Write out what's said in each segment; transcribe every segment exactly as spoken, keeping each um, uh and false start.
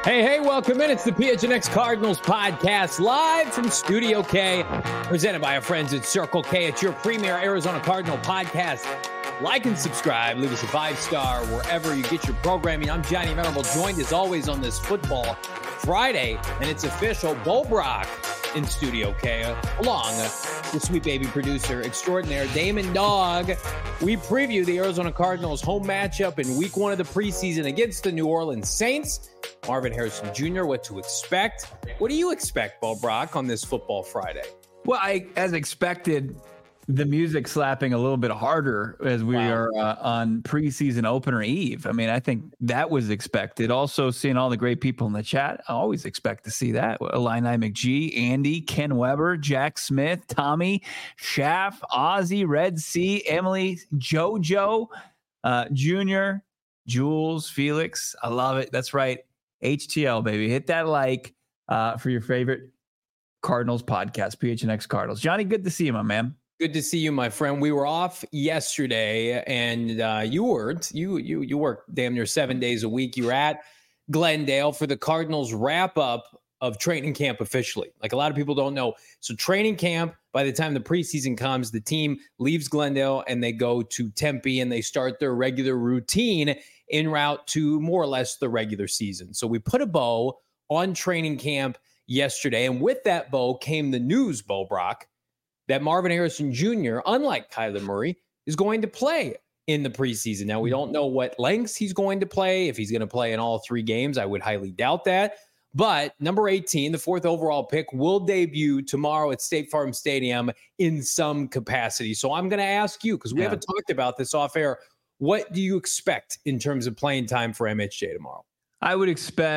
Hey, hey, welcome in. It's the P H N X Cardinals podcast live from Studio K, presented by our friends at Circle K. It's your premier Arizona Cardinal podcast. Like and subscribe. Leave us a five-star wherever you get your programming. I'm Johnny Venerable, joined as always on this Football Friday, and it's official. Bo Brock in Studio K, along with sweet baby producer extraordinaire Damon Dog. We preview the Arizona Cardinals home matchup in week one of the preseason against the New Orleans Saints. Marvin Harrison Junior, what to expect. What do you expect, Bo Brock, on this Football Friday? Well, I, as expected, the music slapping a little bit harder as we wow. are uh, on preseason opener eve. I mean, I think that was expected. Also, seeing all the great people in the chat, I always expect to see that. Illini McGee, Andy, Ken Weber, Jack Smith, Tommy, Schaff, Ozzy, Red Sea, Emily, JoJo, uh, Junior, Jules, Felix. I love it. That's right. H T L, baby. Hit that like uh, for your favorite Cardinals podcast, P H N X Cardinals. Johnny, good to see you, my man. Good to see you, my friend. We were off yesterday, and uh, you worked. You you you worked damn near seven days a week. You were at Glendale for the Cardinals wrap up of training camp officially. Like a lot of people don't know. So training camp, by the time the preseason comes, the team leaves Glendale and they go to Tempe and they start their regular routine en route to more or less the regular season. So we put a bow on training camp yesterday. And with that bow came the news, Bo Brock, that Marvin Harrison Junior, unlike Kyler Murray, is going to play in the preseason. Now, we don't know what lengths he's going to play. If he's going to play in all three games, I would highly doubt that. But number eighteen, the fourth overall pick, will debut tomorrow at State Farm Stadium in some capacity. So I'm going to ask you, because we yeah. haven't talked about this off air, what do you expect in terms of playing time for M H J tomorrow? I would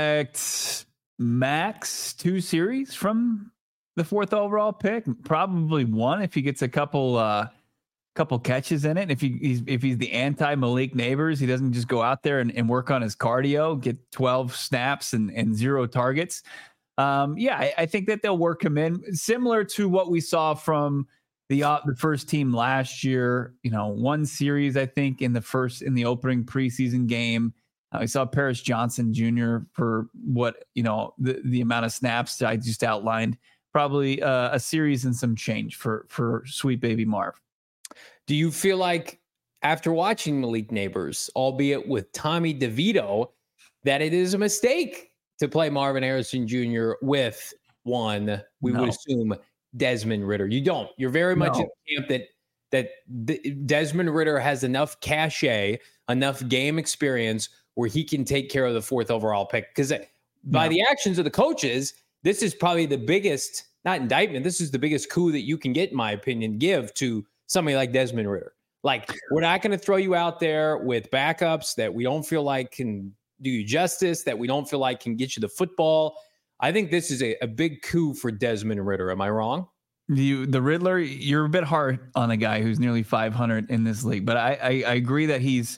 expect max two series from the fourth overall pick, probably one if he gets a couple uh, couple catches in it. If he, he's if he's the anti Malik Neighbors, he doesn't just go out there and, and work on his cardio, get twelve snaps and, and zero targets. Um, yeah, I, I think that they'll work him in, similar to what we saw from the uh, the first team last year. You know, one series I think in the first in the opening preseason game. Uh, we saw Paris Johnson Junior for what you know the the amount of snaps that I just outlined. Probably uh, a series and some change for for sweet baby Marv. Do you feel like after watching Malik Neighbors, albeit with Tommy DeVito, that it is a mistake to play Marvin Harrison Junior with one, we no. would assume, Desmond Ridder? You don't. You're very much no. in the camp that that Desmond Ridder has enough cachet, enough game experience where he can take care of the fourth overall pick. Because by no. the actions of the coaches, this is probably the biggest, not indictment, this is the biggest coup that you can get, in my opinion, give to somebody like Desmond Ridder. Like, we're not going to throw you out there with backups that we don't feel like can do you justice, that we don't feel like can get you the football. I think this is a, a big coup for Desmond Ridder. Am I wrong? You, the Riddler, you're a bit hard on a guy who's nearly five hundred in this league, but I, I, I agree that he's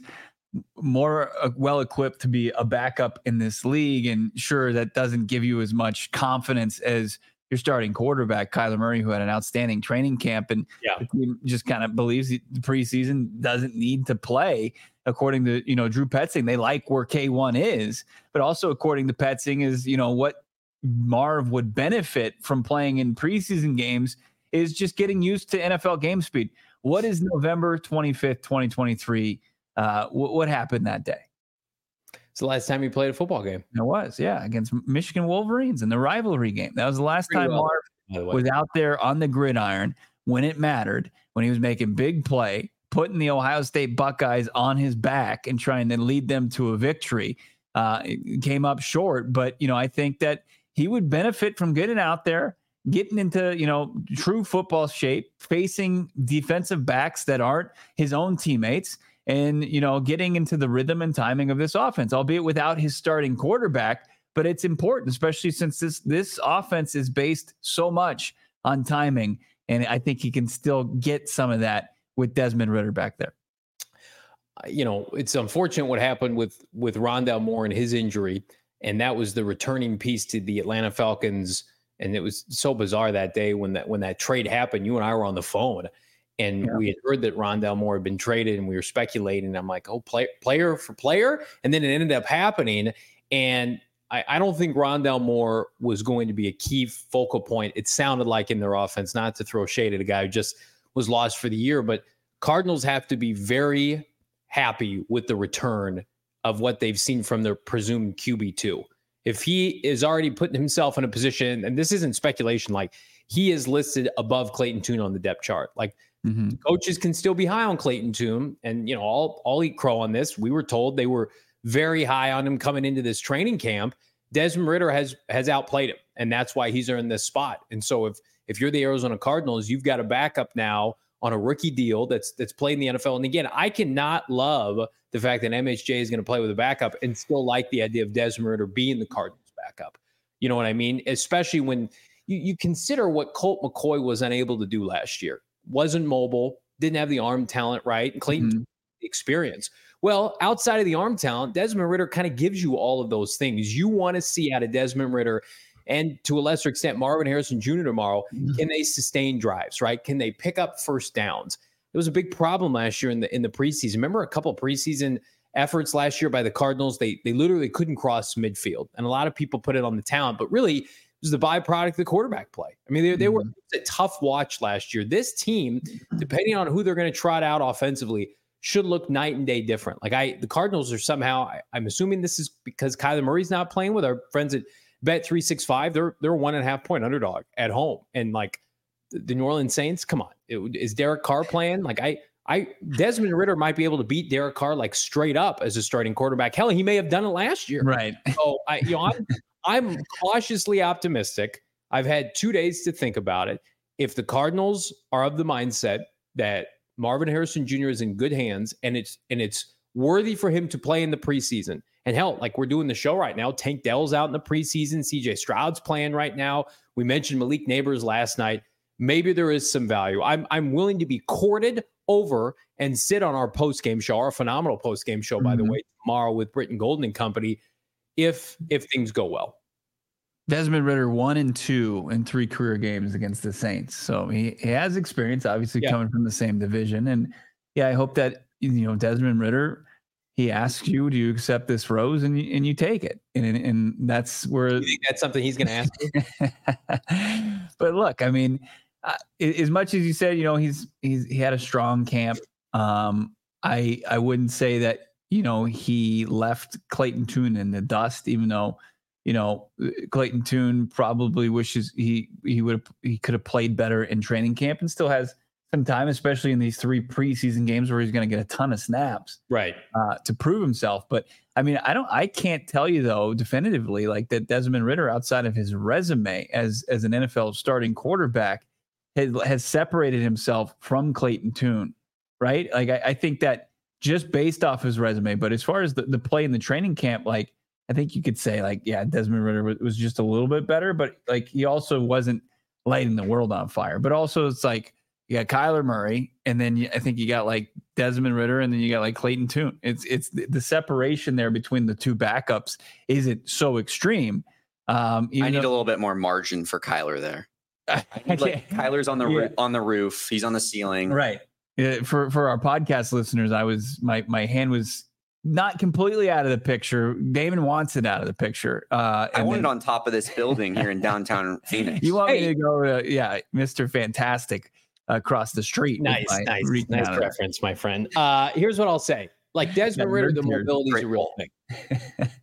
more uh, well-equipped to be a backup in this league. And sure, that doesn't give you as much confidence as your starting quarterback, Kyler Murray, who had an outstanding training camp and yeah. the team just kind of believes the preseason doesn't need to play. According to, you know, Drew Petzing, they like where K one is, but also according to Petzing is, you know, what Marv would benefit from playing in preseason games is just getting used to N F L game speed. What is November twenty-fifth, twenty twenty-three? Uh, what, what happened that day? It's the last time you played a football game. It was, yeah, against Michigan Wolverines in the rivalry game. That was the last Pretty time well, Marv was out there on the gridiron when it mattered, when he was making big play, putting the Ohio State Buckeyes on his back and trying to lead them to a victory. Uh, it came up short, but, you know, I think that he would benefit from getting out there, getting into, you know, true football shape, facing defensive backs that aren't his own teammates, and, you know, getting into the rhythm and timing of this offense, albeit without his starting quarterback. But it's important, especially since this this offense is based so much on timing. And I think he can still get some of that with Desmond Ridder back there. You know, it's unfortunate what happened with with Rondale Moore and his injury. And that was the returning piece to the Atlanta Falcons. And it was so bizarre that day when that when that trade happened. You and I were on the phone. And yeah. we had heard that Rondale Moore had been traded, and we were speculating. I'm like, oh, play, player for player. And then it ended up happening. And I, I don't think Rondale Moore was going to be a key focal point. It sounded like in their offense, not to throw shade at a guy who just was lost for the year, but Cardinals have to be very happy with the return of what they've seen from their presumed Q B two. If he is already putting himself in a position, and this isn't speculation, like he is listed above Clayton Tune on the depth chart. Like mm-hmm. coaches can still be high on Clayton Tune, and you know, I'll I'll eat crow on this. We were told they were very high on him coming into this training camp. Desmond Ridder has has outplayed him, and that's why he's earned this spot. And so if if you're the Arizona Cardinals, you've got a backup now on a rookie deal that's that's played in the N F L. And again, I cannot love the fact that M H J is going to play with a backup and still like the idea of Desmond Ridder being the Cardinals backup. You know what I mean? Especially when you, you consider what Colt McCoy was unable to do last year. Wasn't mobile, didn't have the arm talent, right? And Clayton mm-hmm. experience. Well, outside of the arm talent, Desmond Ridder kind of gives you all of those things. You want to see out of Desmond Ridder and to a lesser extent, Marvin Harrison Junior tomorrow. Mm-hmm. Can they sustain drives, right? Can they pick up first downs? It was a big problem last year in the in the preseason. Remember a couple of preseason efforts last year by the Cardinals? They they literally couldn't cross midfield. And a lot of people put it on the talent, but really it was the byproduct of the quarterback play. I mean, they, they mm-hmm. were a tough watch last year. This team, depending on who they're going to trot out offensively, should look night and day different. Like I, the Cardinals are somehow, I, I'm assuming this is because Kyler Murray's not playing with our friends at Bet three sixty-five. They're they're one and a half point underdog at home, and like the, the New Orleans Saints. Come on, it, is Derek Carr playing? Like I, I Desmond Ridder might be able to beat Derek Carr like straight up as a starting quarterback. Hell, he may have done it last year. Right. So I, you know, I'm I'm cautiously optimistic. I've had two days to think about it. If the Cardinals are of the mindset that Marvin Harrison Junior is in good hands, and it's and it's worthy for him to play in the preseason. And hell, like we're doing the show right now, Tank Dell's out in the preseason. C J Stroud's playing right now. We mentioned Malik Neighbors last night. Maybe there is some value. I'm I'm willing to be courted over and sit on our post-game show, our phenomenal post-game show, mm-hmm. by the way, tomorrow with Britton Golden and company, if if things go well. Desmond Ridder one and two in three career games against the Saints. So he, he has experience, obviously, yeah. coming from the same division. And yeah, I hope that, you know, Desmond Ridder, he asks you, do you accept this rose? And you, and you take it. And, and that's where. You think that's something he's going to ask you? But look, I mean, uh, as much as you said, you know, he's, he's, he had a strong camp. Um, I, I wouldn't say that, you know, he left Clayton Tune in the dust, even though, you know, Clayton Tune probably wishes he he would he could have played better in training camp and still has some time, especially in these three preseason games where he's going to get a ton of snaps, right, uh, to prove himself. But I mean, I don't, I can't tell you though definitively like that Desmond Ridder, outside of his resume as as an N F L starting quarterback, has, has separated himself from Clayton Tune, right? Like I, I think that just based off his resume, but as far as the, the play in the training camp, like. I think you could say like, yeah, Desmond Ridder was just a little bit better, but like he also wasn't lighting the world on fire. But also it's like you got Kyler Murray, and then you, I think you got like Desmond Ridder, and then you got like Clayton Tune. It's it's the, the separation there between the two backups isn't so extreme. Um, I need though, a little bit more margin for Kyler there. Like Kyler's on the yeah. roof, on the roof. He's on the ceiling. Right. Yeah, for for our podcast listeners, I was my my hand was. Not completely out of the picture. Damon wants it out of the picture. Uh, I want then, it on top of this building here in downtown Phoenix. You want hey. me to go to, yeah, Mister Fantastic across the street. Nice, nice, nice reference, my friend. Uh, here's what I'll say. Like Desmond Ridder, the mobility is a real thing.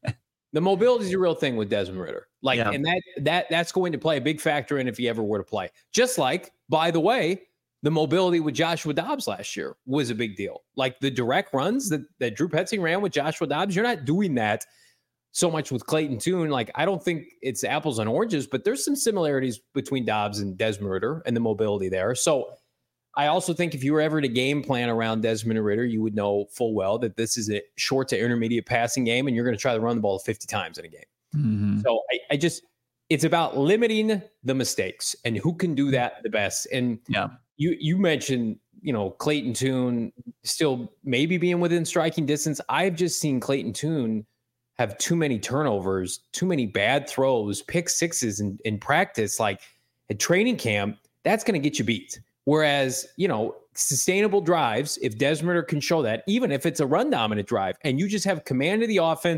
The mobility is a real thing with Desmond Ridder. Like, yeah. and that that that's going to play a big factor in if he ever were to play. Just like, by the way, the mobility with Joshua Dobbs last year was a big deal. Like the direct runs that, that Drew Petzing ran with Joshua Dobbs, you're not doing that so much with Clayton Tune. Like, I don't think it's apples and oranges, but there's some similarities between Dobbs and Desmond Ridder and the mobility there. So I also think if you were ever to game plan around Desmond Ridder, you would know full well that this is a short to intermediate passing game, and you're going to try to run the ball fifty times in a game. Mm-hmm. So I, I just, it's about limiting the mistakes and who can do that the best. And yeah. You you mentioned, you know, Clayton Tune still maybe being within striking distance. I've just seen Clayton Tune have too many turnovers, too many bad throws, pick sixes in, in practice. Like at training camp, that's going to get you beat. Whereas, you know, sustainable drives, if Desmond Ridder can show that, even if it's a run dominant drive, and you just have command of the offense,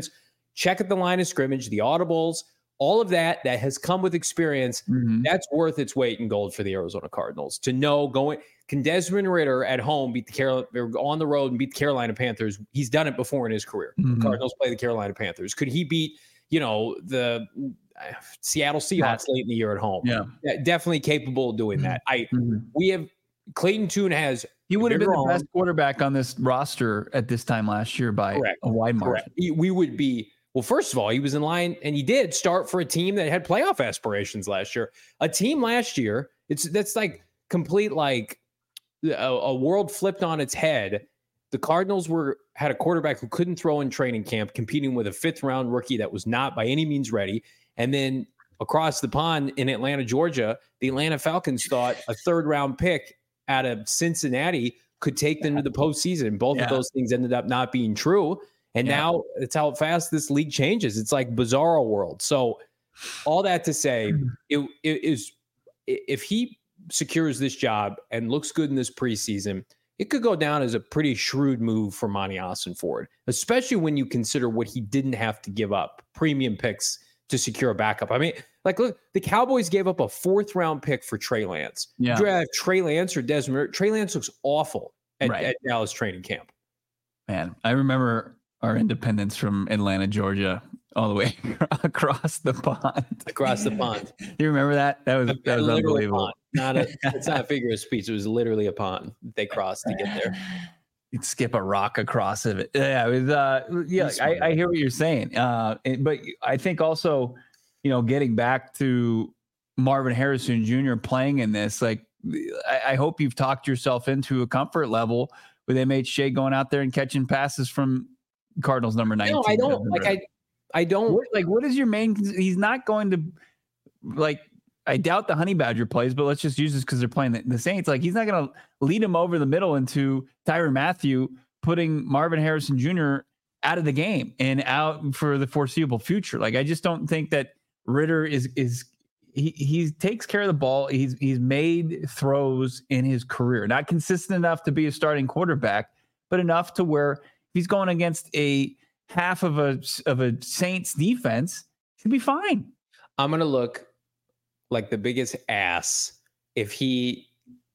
check at the line of scrimmage, the audibles, all of that that has come with experience. Mm-hmm. That's worth its weight in gold for the Arizona Cardinals to know going. Can Desmond Ridder at home beat the Carolina or on the road and beat the Carolina Panthers? He's done it before in his career. Mm-hmm. The Cardinals play the Carolina Panthers. Could he beat, you know, the uh, Seattle Seahawks late in the year at home? Yeah, definitely capable of doing that. I mm-hmm. we have Clayton Tune has. He would have been the best quarterback on this roster at this time last year by Correct. a wide margin. He, we would be. Well, first of all, he was in line, and he did start for a team that had playoff aspirations last year. A team last year, it's that's like complete like a, a world flipped on its head. The Cardinals were had a quarterback who couldn't throw in training camp, competing with a fifth round rookie that was not by any means ready. And then across the pond in Atlanta, Georgia, the Atlanta Falcons thought a third round pick out of Cincinnati could take them to the postseason. Both yeah. of those things ended up not being true. And yeah. now it's how fast this league changes. It's like bizarro world. So all that to say, it, it is if he secures this job and looks good in this preseason, it could go down as a pretty shrewd move for Monty Ossenford, especially when you consider what he didn't have to give up, premium picks to secure a backup. I mean, like, look, the Cowboys gave up a fourth round pick for Trey Lance. Yeah. Do you have Trey Lance or Desmond? Trey Lance looks awful at, right. at Dallas training camp. Man, I remember our independence from Atlanta, Georgia, all the way across the pond. Across the pond. You remember that? That was a, that was unbelievable. Not a, it's not a figure of speech. It was literally a pond they crossed to get there. You'd skip a rock across of it. Yeah, it was. Uh, yeah, I, I hear what you're saying. Uh, but I think also, you know, getting back to Marvin Harrison Junior playing in this, like, I, I hope you've talked yourself into a comfort level with M H J going out there and catching passes from Cardinals number nineteen. No, I don't like I I don't what, like what is your main he's not going to like I doubt the Honey Badger plays, but let's just use this because they're playing the, the Saints. Like he's not gonna lead him over the middle into Tyrann Mathieu, putting Marvin Harrison Junior out of the game and out for the foreseeable future. Like I just don't think that Ridder is is he he takes care of the ball. He's he's made throws in his career, not consistent enough to be a starting quarterback, but enough to where he's going against a half of a of a Saints defense, he'll be fine. I'm gonna look like the biggest ass if he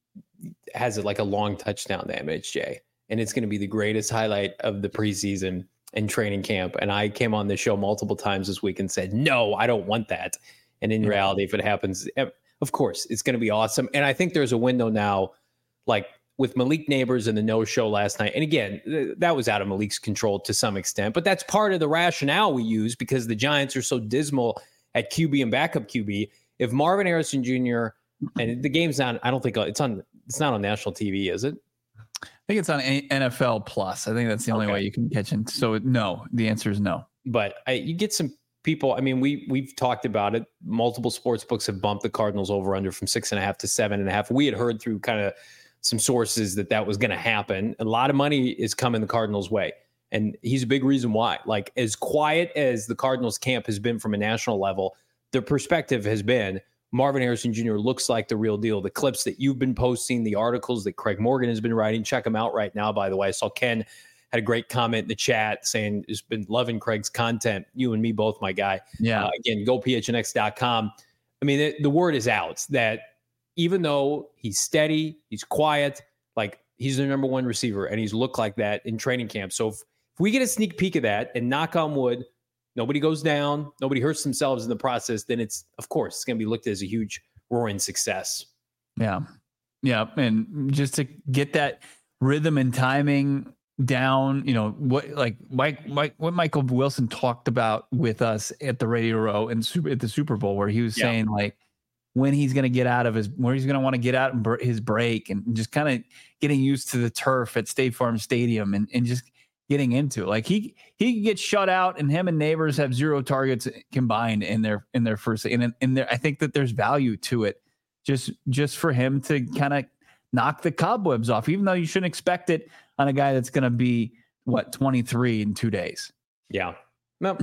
has it like a long touchdown to M H J, and it's gonna be the greatest highlight of the preseason and training camp. And I came on this show multiple times this week and said, no, I don't want that. And in reality, if it happens, of course, it's gonna be awesome. And I think there's a window now, like with Malik Neighbors and the no-show last night. And again, th- that was out of Malik's control to some extent, but that's part of the rationale we use because the Giants are so dismal at Q B and backup Q B. If Marvin Harrison Junior and the game's not, I don't think it's on, it's not on national T V, is it? I think it's on N F L Plus. I think that's the only okay. way you can catch it. So no, the answer is no. But I, you get some people. I mean, we we've talked about it. Multiple sports books have bumped the Cardinals over under from six and a half to seven and a half. We had heard through kind of some sources that that was going to happen. A lot of money is coming the Cardinals' way, and he's a big reason why. Like as quiet as the Cardinals camp has been from a national level, the perspective has been Marvin Harrison Junior looks like the real deal. The clips that you've been posting, the articles that Craig Morgan has been writing, check them out right now. By the way, I saw Ken had a great comment in the chat saying he's been loving Craig's content. You and me both, my guy. Yeah. Uh, again, go P H N X dot com. I mean, the, the word is out that even though he's steady, he's quiet, like he's the number one receiver, and he's looked like that in training camp. So if, if we get a sneak peek of that, and knock on wood, nobody goes down, nobody hurts themselves in the process, then it's, of course, it's going to be looked at as a huge roaring success. Yeah. Yeah. And just to get that rhythm and timing down, you know, what like Mike, Mike, what Michael Wilson talked about with us at the Radio Row and super, at the Super Bowl, where he was yeah. saying like, when he's going to get out of his, where he's going to want to get out and br- his break, and just kind of getting used to the turf at State Farm Stadium and, and just getting into it. Like he, he gets shut out, and him and Neighbors have zero targets combined in their, in their first, and in there, I think that there's value to it just, just for him to kind of knock the cobwebs off, even though you shouldn't expect it on a guy that's going to be what, twenty-three in two days. Yeah. No.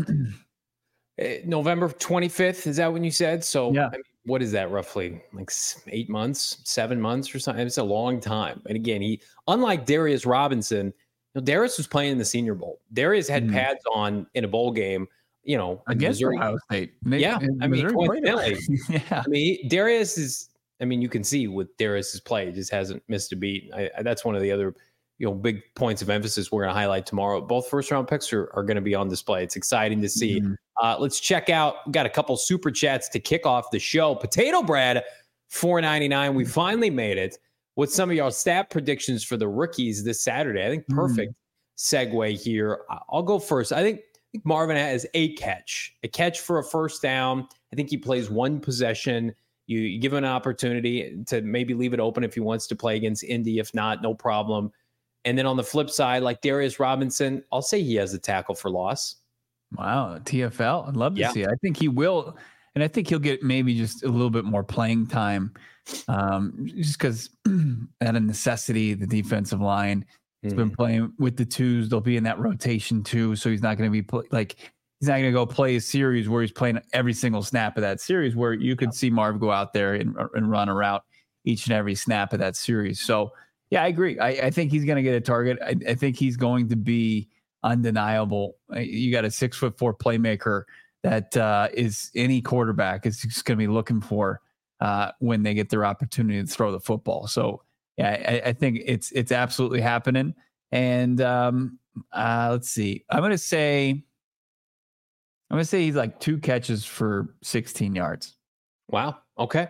November twenty-fifth. Is that when you said? So yeah. I mean, what is that roughly? Like eight months, seven months or something? It's a long time. And again, he, unlike Darius Robinson, you know, Darius was playing in the Senior Bowl. Darius had mm. pads on in a bowl game you know, against Missouri. Ohio State. They, yeah, I mean, coincidentally, yeah. I mean, Darius is. I mean, you can see with Darius's play, he just hasn't missed a beat. I, I, that's one of the other, you know, big points of emphasis we're going to highlight tomorrow. Both first round picks are, are going to be on display. It's exciting to see. Mm-hmm. Uh, let's check out. We've got a couple super chats to kick off the show. Potato Bread, four ninety-nine. We finally made it. What's some of your stat predictions for the rookies this Saturday? I think perfect mm-hmm. segue here. I'll go first. I think, I think Marvin has a catch, a catch for a first down. I think he plays one possession. You, you give him an opportunity to maybe leave it open if he wants to play against Indy. If not, no problem. And then on the flip side, like Darius Robinson, I'll say he has a tackle for loss. Wow, T F L. I'd love to yeah. see it. I think he will. And I think he'll get maybe just a little bit more playing time um, just because out of necessity, the defensive line has mm. been playing with the twos. They'll be in that rotation too. So he's not going to be pl- like – he's not going to go play a series where he's playing every single snap of that series, where you could see Marv go out there and, and run a route each and every snap of that series. So, yeah, I agree. I, I think he's going to get a target. I, I think he's going to be undeniable. You got a six foot four playmaker that uh, is any quarterback is just going to be looking for uh, when they get their opportunity to throw the football. So, yeah, I, I think it's it's absolutely happening. And um, uh, let's see. I'm going to say. I'm going to say he's like two catches for sixteen yards. Wow. Okay.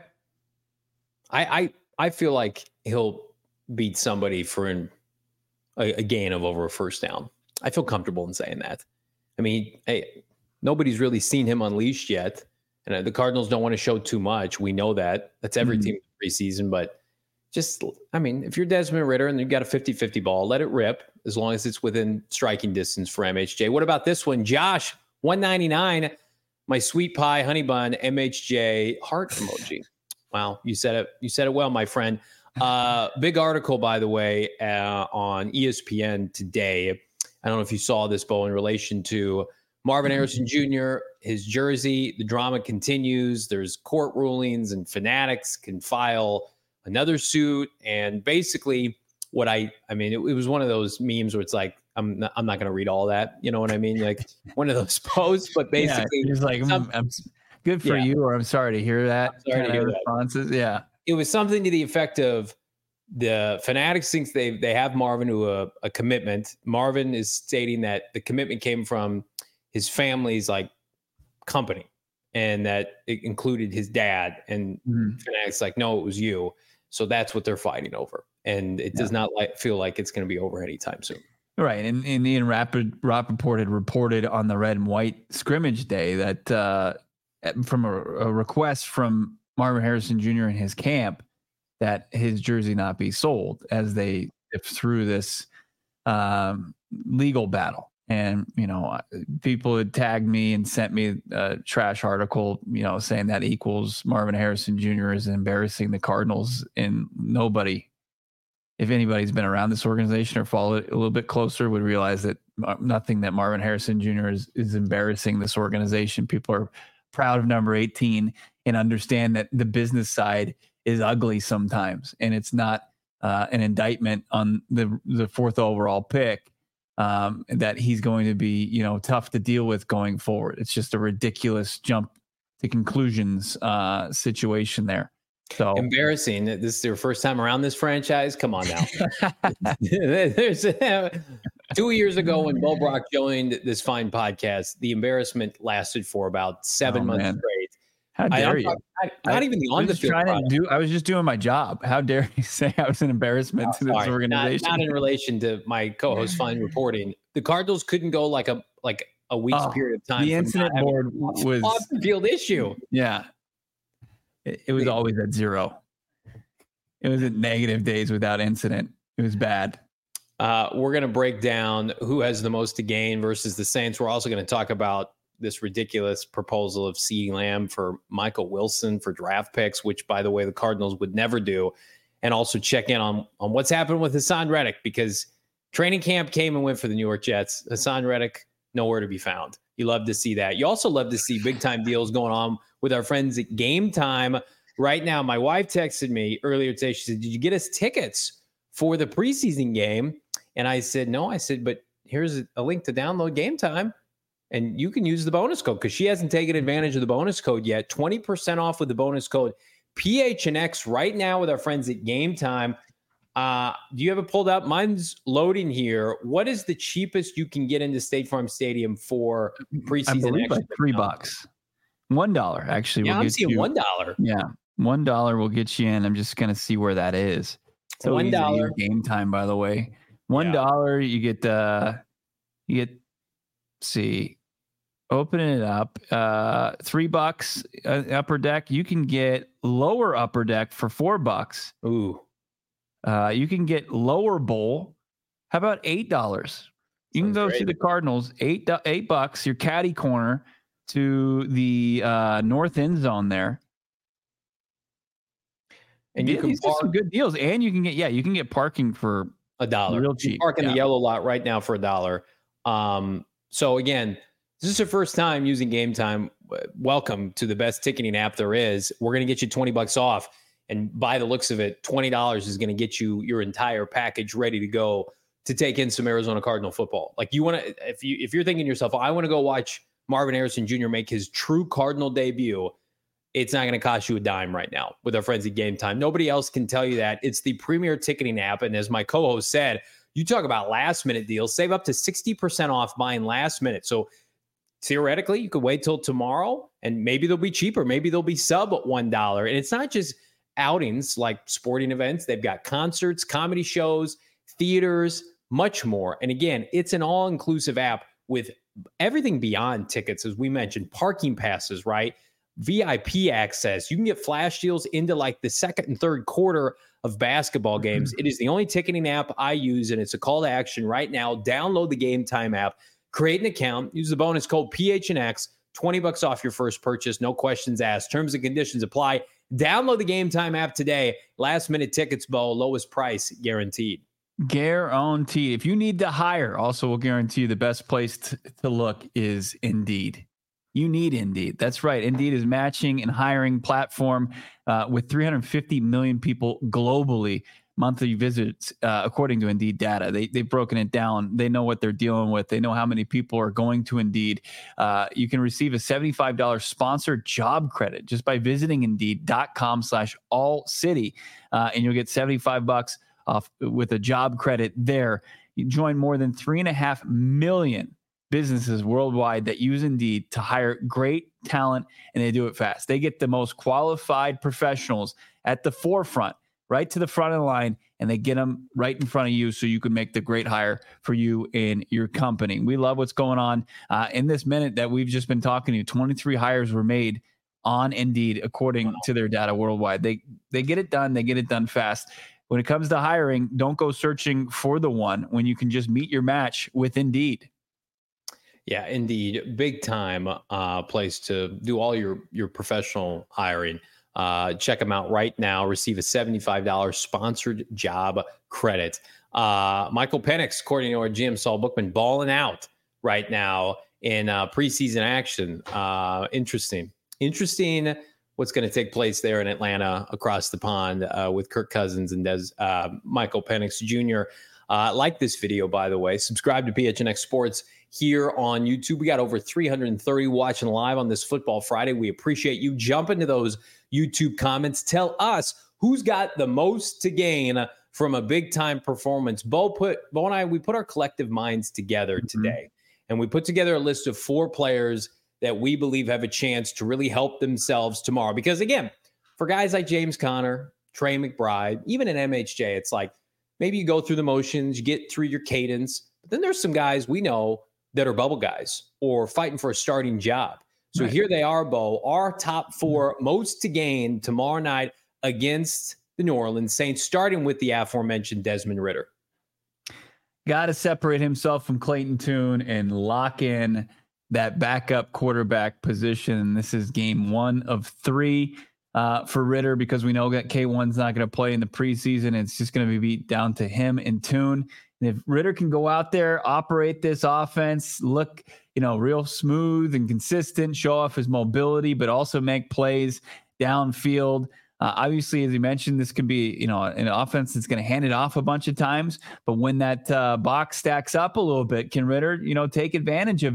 I I, I feel like he'll beat somebody for an, a, a gain of over a first down. I feel comfortable in saying that. I mean, hey, nobody's really seen him unleashed yet. And the Cardinals don't want to show too much. We know that. That's every mm-hmm. team preseason. But just, I mean, if you're Desmond Ridder and you've got a fifty-fifty ball, let it rip as long as it's within striking distance for M H J. What about this one? Josh, one ninety-nine, my sweet pie, honey bun, M H J, heart emoji. Wow, you said it. You said it well, my friend. Uh, big article, by the way, uh, on E S P N today. I don't know if you saw this, Bo, in relation to Marvin Harrison Junior, his jersey. The drama continues. There's court rulings, and Fanatics can file another suit. And basically, what I, I mean, it, it was one of those memes where it's like, I'm not, I'm not going to read all that. You know what I mean? Like one of those posts, but basically, yeah, it's like, some, I'm good for yeah. you, or I'm sorry to hear that. I'm sorry to hear responses. That. Yeah. It was something to the effect of the Fanatics thinks they they have Marvin to a, a commitment. Marvin is stating that the commitment came from his family's like company, and that it included his dad. And mm-hmm. Fanatics like, no, it was you. So that's what they're fighting over, and it yeah. does not like feel like it's going to be over anytime soon. Right. And, and Ian Rappaport, Rappaport had reported on the red and white scrimmage day that uh, from a, a request from Marvin Harrison Junior and his camp that his jersey not be sold as they sift through this um, legal battle. And, you know, people had tagged me and sent me a trash article, you know, saying that equals Marvin Harrison Junior is embarrassing the Cardinals, and nobody, if anybody's been around this organization or followed it a little bit closer, would realize that nothing that Marvin Harrison Junior is, is embarrassing this organization. People are proud of number eighteen and understand that the business side is ugly sometimes. And it's not uh, an indictment on the, the fourth overall pick um, that he's going to be, you know, tough to deal with going forward. It's just a ridiculous jump to conclusions uh, situation there. So embarrassing. This is your first time around this franchise. Come on now. There's uh, two years ago when Bo Brock joined this fine podcast, the embarrassment lasted for about seven oh, months man. straight. How dare I, you? Not, not I, even the on the field. To do, I was just doing my job. How dare you say I was an embarrassment oh, to this sorry. organization? Not, not in relation to my co-host fine reporting. The Cardinals couldn't go like a like a week's oh, period of time. The incident board was off the field issue. Yeah. It, it was always at zero. It was at negative days without incident. It was bad. Uh, we're going to break down who has the most to gain versus the Saints. We're also going to talk about this ridiculous proposal of CeeDee Lamb for Michael Wilson for draft picks, which, by the way, the Cardinals would never do. And also check in on, on what's happened with Hassan Reddick, because training camp came and went for the New York Jets. Hassan Reddick, nowhere to be found. You love to see that. You also love to see big-time deals going on with our friends at Game Time. Right now, my wife texted me earlier today. She said, did you get us tickets for the preseason game? And I said, no. I said, but here's a link to download Game Time. and you can use the bonus code because she hasn't taken advantage of the bonus code yet. twenty percent off with the bonus code P H N X right now with our friends at Game Time. Uh, do you have it pulled up? Mine's loading here. What is the cheapest you can get into State Farm Stadium for preseason? I believe like three now? bucks. One dollar actually. Yeah, will I'm get seeing you, one dollar. Yeah, one dollar will get you in. I'm just gonna see where that is. So one dollar. Game Time, by the way. One dollar. Yeah. You get uh, you get. Let's see, opening it up. Uh, three bucks uh, upper deck. You can get lower upper deck for four bucks. Ooh. Uh, you can get lower bowl. How about eight dollars? You Sounds can go great. see the Cardinals. Eight eight bucks. Your caddy corner to the uh, north end zone there. And you yeah, can park some good deals. And you can get yeah, you can get parking for a dollar. Real cheap. You park in yeah. the yellow lot right now for a dollar. Um, so again, this is your first time using Game Time. Welcome to the best ticketing app there is. We're going to get you twenty bucks off. And by the looks of it, twenty dollars is going to get you your entire package ready to go to take in some Arizona Cardinal football. Like you want to, if you if you're thinking to yourself, I want to go watch Marvin Harrison Junior make his true Cardinal debut, it's not going to cost you a dime right now with our friends at Game Time. Nobody else can tell you that. It's the premier ticketing app, and as my co-host said, you talk about last minute deals, save up to sixty percent off buying last minute. So theoretically, you could wait till tomorrow, and maybe they'll be cheaper. Maybe they'll be sub one dollar, and it's not just outings like sporting events. They've got concerts, comedy shows, theaters, much more. And again, it's an all-inclusive app with everything beyond tickets, as we mentioned, parking passes, right? V I P access. You can get flash deals into like the second and third quarter of basketball games. Mm-hmm. It is the only ticketing app I use, and it's a call to action right now. Download the Game Time app, create an account, use the bonus code P H N X, twenty bucks off your first purchase, no questions asked. Terms and conditions apply. Download the Game Time app today. Last minute tickets, Bo, lowest price guaranteed. Guaranteed. If you need to hire, also we'll guarantee you the best place to, to look is Indeed. You need Indeed. That's right. Indeed is matching and hiring platform uh, with three hundred fifty million people globally monthly visits, uh, according to Indeed data. They, they've broken it down. They know what they're dealing with. They know how many people are going to Indeed. Uh, you can receive a seventy-five dollars sponsored job credit just by visiting Indeed.com slash all city. Uh, and you'll get seventy-five bucks off with a job credit there. You join more than three and a half million businesses worldwide that use Indeed to hire great talent, and they do it fast. They get the most qualified professionals at the forefront, right to the front of the line, and they get them right in front of you so you can make the great hire for you and your company. We love what's going on uh, in this minute that we've just been talking to you. twenty-three hires were made on Indeed, according wow. to their data worldwide. They they get it done. They get it done fast. When it comes to hiring, don't go searching for the one when you can just meet your match with Indeed. Yeah, Indeed, big time uh, place to do all your your professional hiring. Uh, check them out right now. Receive a seventy-five dollars sponsored job credit. Uh, Michael Penix, according to our G M Saul Bookman, balling out right now in uh, preseason action. Uh, interesting. Interesting what's going to take place there in Atlanta across the pond uh, with Kirk Cousins and Des, uh, Michael Penix Junior Uh, like this video, by the way. Subscribe to P H N X Sports here on YouTube. We got over three hundred thirty watching live on this Football Friday. We appreciate you. Jump into those YouTube comments. Tell us who's got the most to gain from a big-time performance. Bo put Bo and I, we put our collective minds together mm-hmm. today, and we put together a list of four players that we believe have a chance to really help themselves tomorrow. Because, again, for guys like James Conner, Trey McBride, even in M H J, it's like, maybe you go through the motions, you get through your cadence. But then there's some guys we know that are bubble guys or fighting for a starting job. So right. here they are, Bo, our top four most to gain tomorrow night against the New Orleans Saints, starting with the aforementioned Desmond Ridder. Got to separate himself from Clayton Tune and lock in that backup quarterback position. This is game one of three. Uh, for Ridder, because we know that K one's not going to play in the preseason. It's just going to be beat down to him and Tune. And if Ridder can go out there, operate this offense, look, you know, real smooth and consistent, show off his mobility, but also make plays downfield. Uh, obviously, as you mentioned, this could be, you know, an offense that's going to hand it off a bunch of times. But when that uh, box stacks up a little bit, can Ridder, you know, take advantage of it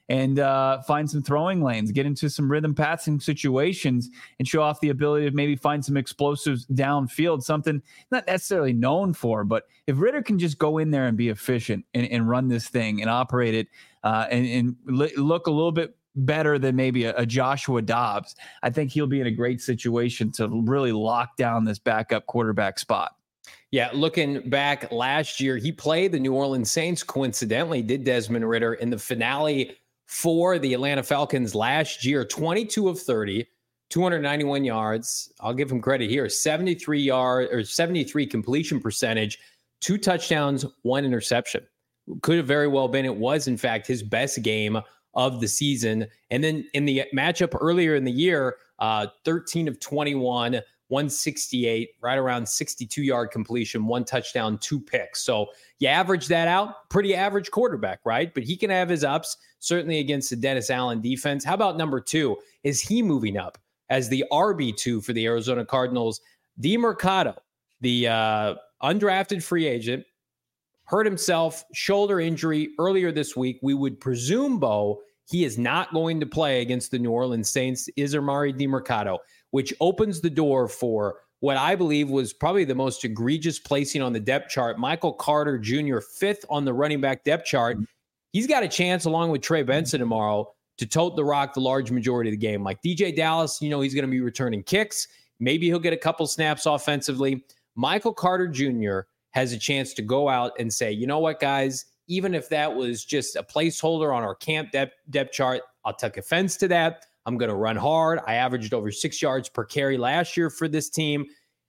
and uh, find some throwing lanes, get into some rhythm passing situations, and show off the ability to maybe find some explosives downfield, something not necessarily known for. But if Ridder can just go in there and be efficient and, and run this thing and operate it uh, and, and look a little bit better than maybe a, a Joshua Dobbs, I think he'll be in a great situation to really lock down this backup quarterback spot. Yeah, looking back last year, he played the New Orleans Saints, coincidentally, did Desmond Ridder in the finale for the Atlanta Falcons last year, twenty-two of thirty, two hundred ninety-one yards. I'll give him credit here, seventy-three yard or seventy-three completion percentage, two touchdowns, one interception. Could have very well been, it was in fact his best game of the season. And then in the matchup earlier in the year, uh, thirteen of twenty-one, one sixty-eight, right around sixty-two yard completion, one touchdown, two picks. So you average that out, pretty average quarterback, right? But he can have his ups, certainly against the Dennis Allen defense. How about number two? Is he moving up as the R B two for the Arizona Cardinals? Demercado, the uh, undrafted free agent, hurt himself, shoulder injury earlier this week. We would presume, Bo, he is not going to play against the New Orleans Saints, is Amari Demercado, which opens the door for what I believe was probably the most egregious placing on the depth chart. Michael Carter Junior, fifth on the running back depth chart. He's got a chance, along with Trey Benson tomorrow, to tote the rock the large majority of the game. Like D J Dallas, you know, he's going to be returning kicks. Maybe he'll get a couple snaps offensively. Michael Carter Junior has a chance to go out and say, you know what, guys, even if that was just a placeholder on our camp depth, depth chart, I'll take offense to that. I'm going to run hard. I averaged over six yards per carry last year for this team.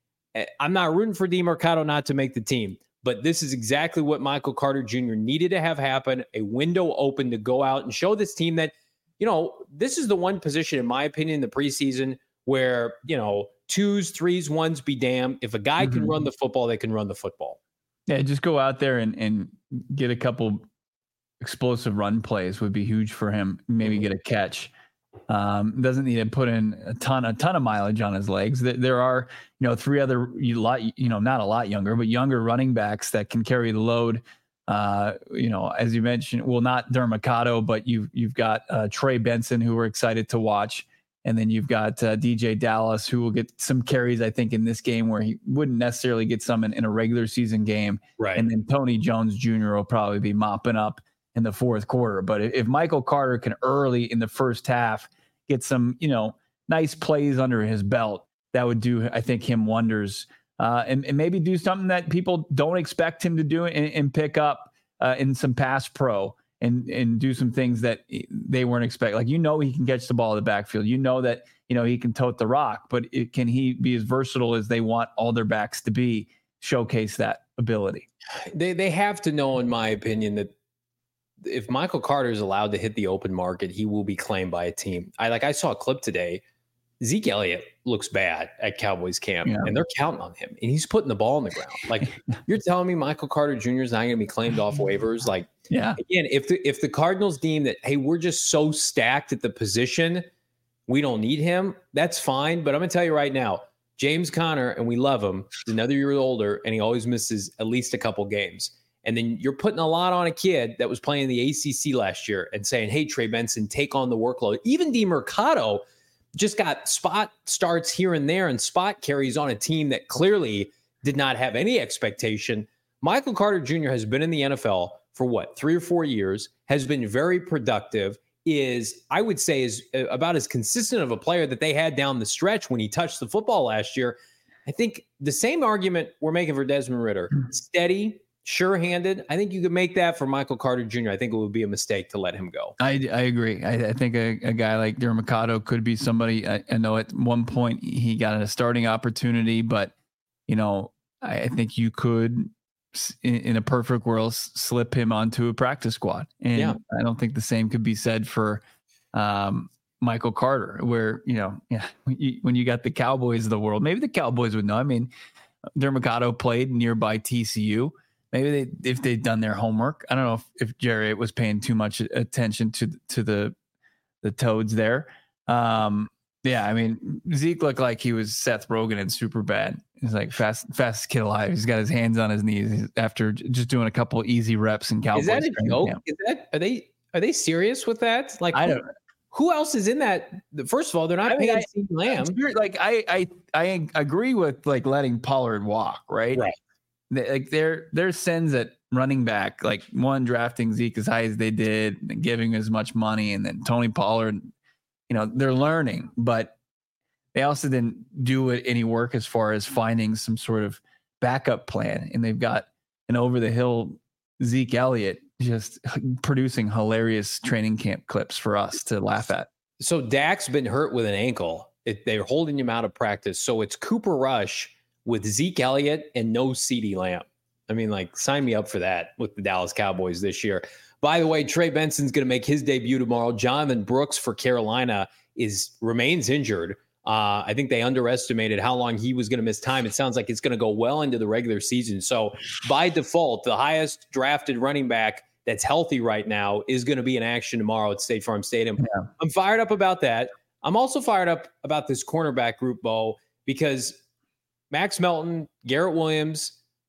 I'm not rooting for Demercado not to make the team, but this is exactly what Michael Carter Junior needed to have happen, a window open to go out and show this team that, you know, this is the one position, in my opinion, in the preseason where, you know, twos, threes, ones be damned. If a guy mm-hmm. can run the football, they can run the football. Yeah, just go out there and, and get a couple explosive run plays would be huge for him. Maybe mm-hmm. get a catch. Um, doesn't need to put in a ton, a ton of mileage on his legs. There are, you know, three other, you lot, you know, not a lot younger, but younger running backs that can carry the load. Uh, you know, as you mentioned, well, not Demercado, but you've, you've got uh, Trey Benson, who we're excited to watch. And then you've got uh, D J Dallas, who will get some carries, I think, in this game where he wouldn't necessarily get some in, in a regular season game. Right. And then Tony Jones Junior will probably be mopping up in the fourth quarter. But if Michael Carter can early in the first half get some, you know, nice plays under his belt, that would do, I think, him wonders. Uh, and, and maybe do something that people don't expect him to do and, and pick up uh, in some pass pro and, and do some things that they weren't expecting. Like, you know, he can catch the ball in the backfield. You know that, you know, he can tote the rock, but it, can he be as versatile as they want all their backs to be, showcase that ability? They, they have to know, in my opinion, that if Michael Carter is allowed to hit the open market, he will be claimed by a team. I like I saw a clip today. Zeke Elliott looks bad at Cowboys camp, yeah. and they're counting on him, and he's putting the ball on the ground. Like, you're telling me Michael Carter Junior is not going to be claimed off waivers? Like, yeah. Again, if the if the Cardinals deem that, hey, we're just so stacked at the position, we don't need him, that's fine. But I'm going to tell you right now, James Conner, and we love him, he's another year older, and he always misses at least a couple games. And then you're putting a lot on a kid that was playing in the A C C last year and saying, hey, Trey Benson, take on the workload. Even Demercado just got spot starts here and there and spot carries on a team that clearly did not have any expectation. Michael Carter Junior has been in the N F L for what, three or four years, has been very productive, is, I would say, is about as consistent of a player that they had down the stretch when he touched the football last year. I think the same argument we're making for Desmond Ridder, steady, sure-handed. I think you could make that for Michael Carter Junior I think it would be a mistake to let him go. I, I agree. I, I think a, a guy like Demercado could be somebody. I, I know at one point he got a starting opportunity, but, you know, I, I think you could, in, in a perfect world, slip him onto a practice squad. And yeah. I don't think the same could be said for um, Michael Carter, where, you know, yeah, when you, when you got the Cowboys of the world, maybe the Cowboys would know. I mean, Demercado played nearby T C U. Maybe they, if they'd done their homework. I don't know if, if Jerry was paying too much attention to to the the Toads there. Um, yeah, I mean, Zeke looked like he was Seth Rogen in Superbad. He's like fast fastest kid alive. He's got his hands on his knees after just doing a couple easy reps in Cowboys. Is that a joke? Is that, are they Are they serious with that? Like, I who, don't. Who else is in that? First of all, they're not I mean, paying CeeDee Lamb. Sure, like I, I, I agree with like letting Pollard walk, right? Right. They, like their their sins at running back, like one drafting Zeke as high as they did, and giving as much money, and then Tony Pollard. You know, they're learning, but they also didn't do it any work as far as finding some sort of backup plan. And they've got an over the hill Zeke Elliott just producing hilarious training camp clips for us to laugh at. So Dak's been hurt with an ankle. It, they're holding him out of practice. So it's Cooper Rush with Zeke Elliott and no CeeDee Lamb. I mean, like, sign me up for that with the Dallas Cowboys this year. By the way, Trey Benson's going to make his debut tomorrow. Jonathan Brooks for Carolina is remains injured. Uh, I think they underestimated how long he was going to miss time. It sounds like it's going to go well into the regular season. So by default, the highest drafted running back that's healthy right now is going to be in action tomorrow at State Farm Stadium. Yeah. I'm fired up about that. I'm also fired up about this cornerback group, Bo, because Max Melton, Garrett Williams,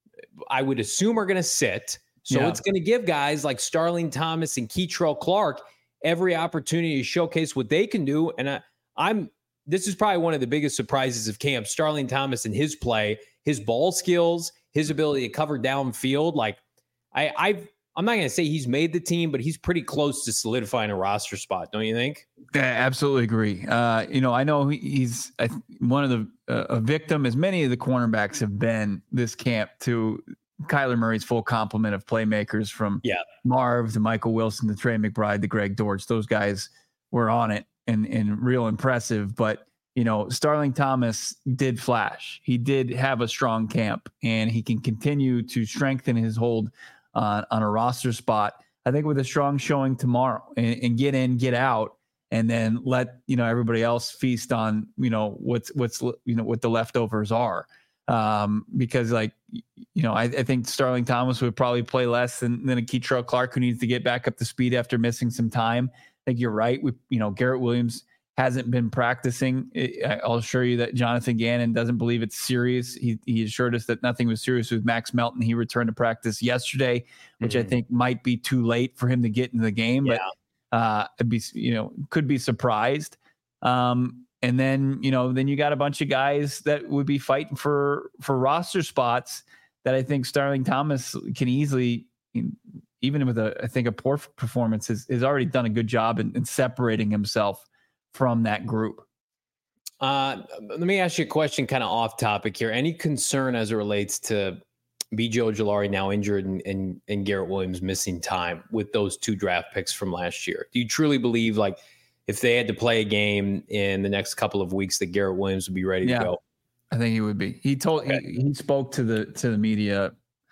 I would assume are going to sit. So yeah. It's going to give guys like Starling Thomas and Keitrell Clark every opportunity to showcase what they can do. And I, I'm this is probably one of the biggest surprises of camp. Starling Thomas and his play, his ball skills, his ability to cover downfield. Like I, I've, I'm not going to say he's made the team, but he's pretty close to solidifying a roster spot. Don't you think? I absolutely agree. Uh, you know, I know he's I, one of the uh, a victim, as many of the cornerbacks have been this camp, to Kyler Murray's full complement of playmakers, from yeah. Marv to Michael Wilson to Trey McBride to Greg Dortch. Those guys were on it and and real impressive. But you know, Starling Thomas did flash. He did have a strong camp, and he can continue to strengthen his hold on, on a roster spot, I think, with a strong showing tomorrow, and, and get in, get out, and then let, you know, everybody else feast on, you know, what's, what's, you know, what the leftovers are. Um, because like, you know, I, I think Starling Thomas would probably play less than, than a Keitrell Clark, who needs to get back up to speed after missing some time. I think you're right. We, you know, Garrett Williams hasn't been practicing. I'll assure you that Jonathan Gannon doesn't believe it's serious. He he assured us that nothing was serious with Max Melton. He returned to practice yesterday, which mm-hmm. I think might be too late for him to get into the game. Yeah. But uh, I'd be, you know, could be surprised. Um, and then, you know, then you got a bunch of guys that would be fighting for for roster spots that I think Starling Thomas can easily, even with a I think a poor performance, has, has already done a good job in, in separating himself from that group. Uh, let me ask you a question kind of off topic here. Any concern as it relates to B J Ojulari now injured and, and, and Garrett Williams missing time with those two draft picks from last year? Do you truly believe, like, if they had to play a game in the next couple of weeks, that Garrett Williams would be ready yeah, to go? I think he would be. He told okay. he, he spoke to the to the media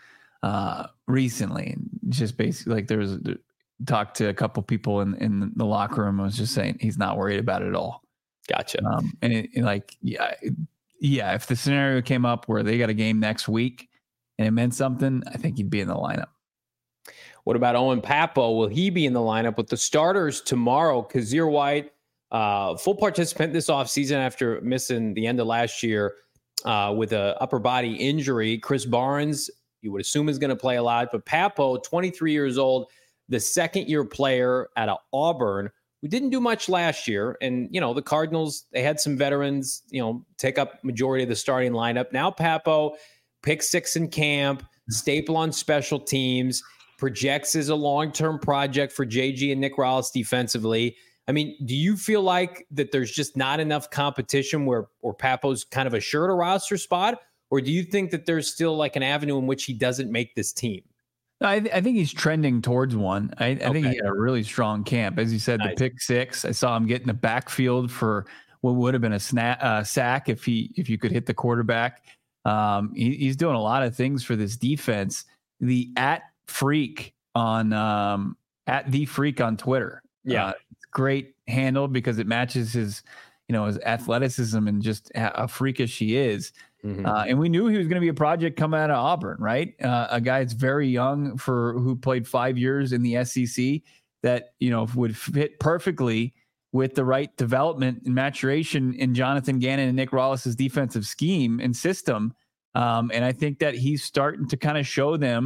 uh, recently, and just basically like there was a, talked to a couple people in, in the locker room. I was just saying he's not worried about it at all. Gotcha. Um, and, it, and like, yeah, yeah. If the scenario came up where they got a game next week and it meant something, I think he'd be in the lineup. What about Owen Pappoe? Will he be in the lineup with the starters tomorrow? Kazir White, uh, full participant this offseason after missing the end of last year uh, with a upper body injury. Chris Barnes, you would assume, is going to play a lot, but Pappoe, twenty-three years old, the second year player out of Auburn, who didn't do much last year. And, you know, the Cardinals, they had some veterans, you know, take up majority of the starting lineup. Now Pappoe, pick six in camp, staple on special teams, projects as a long-term project for J G and Nick Rallis defensively. I mean, do you feel like that there's just not enough competition where, or Pappoe's kind of assured a roster spot? Or do you think that there's still like an avenue in which he doesn't make this team? I, th- I think he's trending towards one. I, I okay. think he had a really strong camp. As you said, nice. The pick six, I saw him get in the backfield for what would have been a snap, uh, sack if he if you could hit the quarterback. Um, he, he's doing a lot of things for this defense. The at freak on um, at the freak on Twitter. Yeah, uh, great handle because it matches his, you know, his athleticism and just how freakish he is. Mm-hmm. Uh, and we knew he was going to be a project coming out of Auburn, right? Uh, a guy that's very young for who played five years in the S E C that, you know, would fit perfectly with the right development and maturation in Jonathan Gannon and Nick Rallis's defensive scheme and system. Um, and I think that he's starting to kind of show them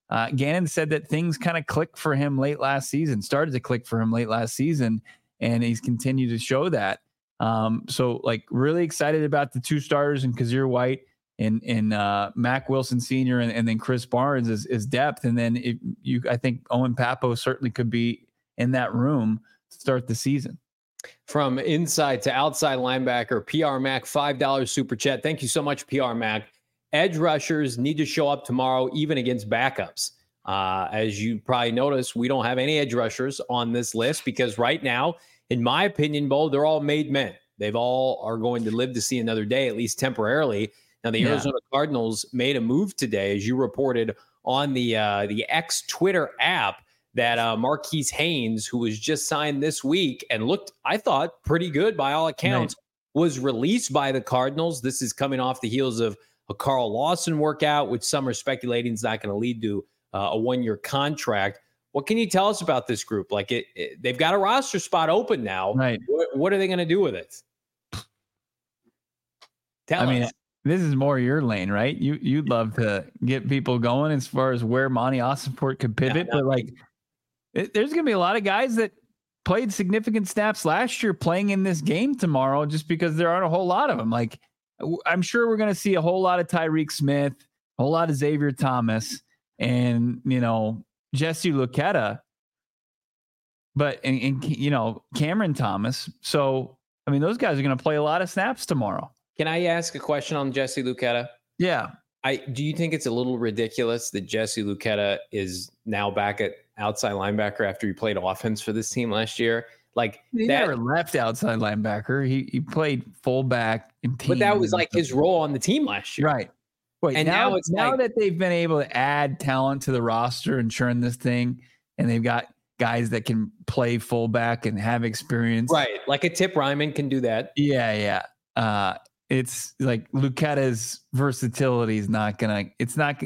Uh, Gannon said that things kind of clicked for him late last season, started to click for him late last season, and he's continued to show that. Um, so, like, really excited about the two starters in Kazir White and and uh, Mack Wilson Senior and, and then Chris Barnes is, is depth. And then if you, I think Owen Pappoe certainly could be in that room to start the season. From inside to outside linebacker, P R Mac, five dollars super chat. Thank you so much, P R Mac. Edge rushers need to show up tomorrow, even against backups. Uh, as you probably noticed, we don't have any edge rushers on this list because right now, in my opinion, Bo, they're all made men. They've all are going to live to see another day, at least temporarily. Now, the yeah. Arizona Cardinals made a move today, as you reported on the uh, the X Twitter app, that uh, Marquise Haynes, who was just signed this week and looked, I thought, pretty good by all accounts, right. was released by the Cardinals. This is coming off the heels of a Carl Lawson workout, which some are speculating is not going to lead to uh, a one-year contract. What can you tell us about this group? Like, it, it they've got a roster spot open now. Right. What, what are they going to do with it? Tell I us. mean, this is more your lane, right? You you'd love to get people going as far as where Monty Ossenfort could pivot, yeah, but like, it, there's going to be a lot of guys that played significant snaps last year playing in this game tomorrow, just because there aren't a whole lot of them. Like, I'm sure we're going to see a whole lot of Tyreek Smith, a whole lot of Xavier Thomas, and, you know, Jesse Luketa, but, and, and you know, Cameron Thomas. So, I mean, those guys are going to play a lot of snaps tomorrow. Can I ask a question on Jesse Luketa? Yeah. I do you think it's a little ridiculous that Jesse Luketa is now back at outside linebacker after he played offense for this team last year? Like, he that, never left outside linebacker. He he played fullback in team. But that was like his role on the team last year. Right. Wait, and now, now it's now like, that they've been able to add talent to the roster and churn this thing, and they've got guys that can play fullback and have experience. Right. Like a Tip Ryman can do that. Yeah, yeah. Uh, it's like Luketa's versatility is not gonna. It's not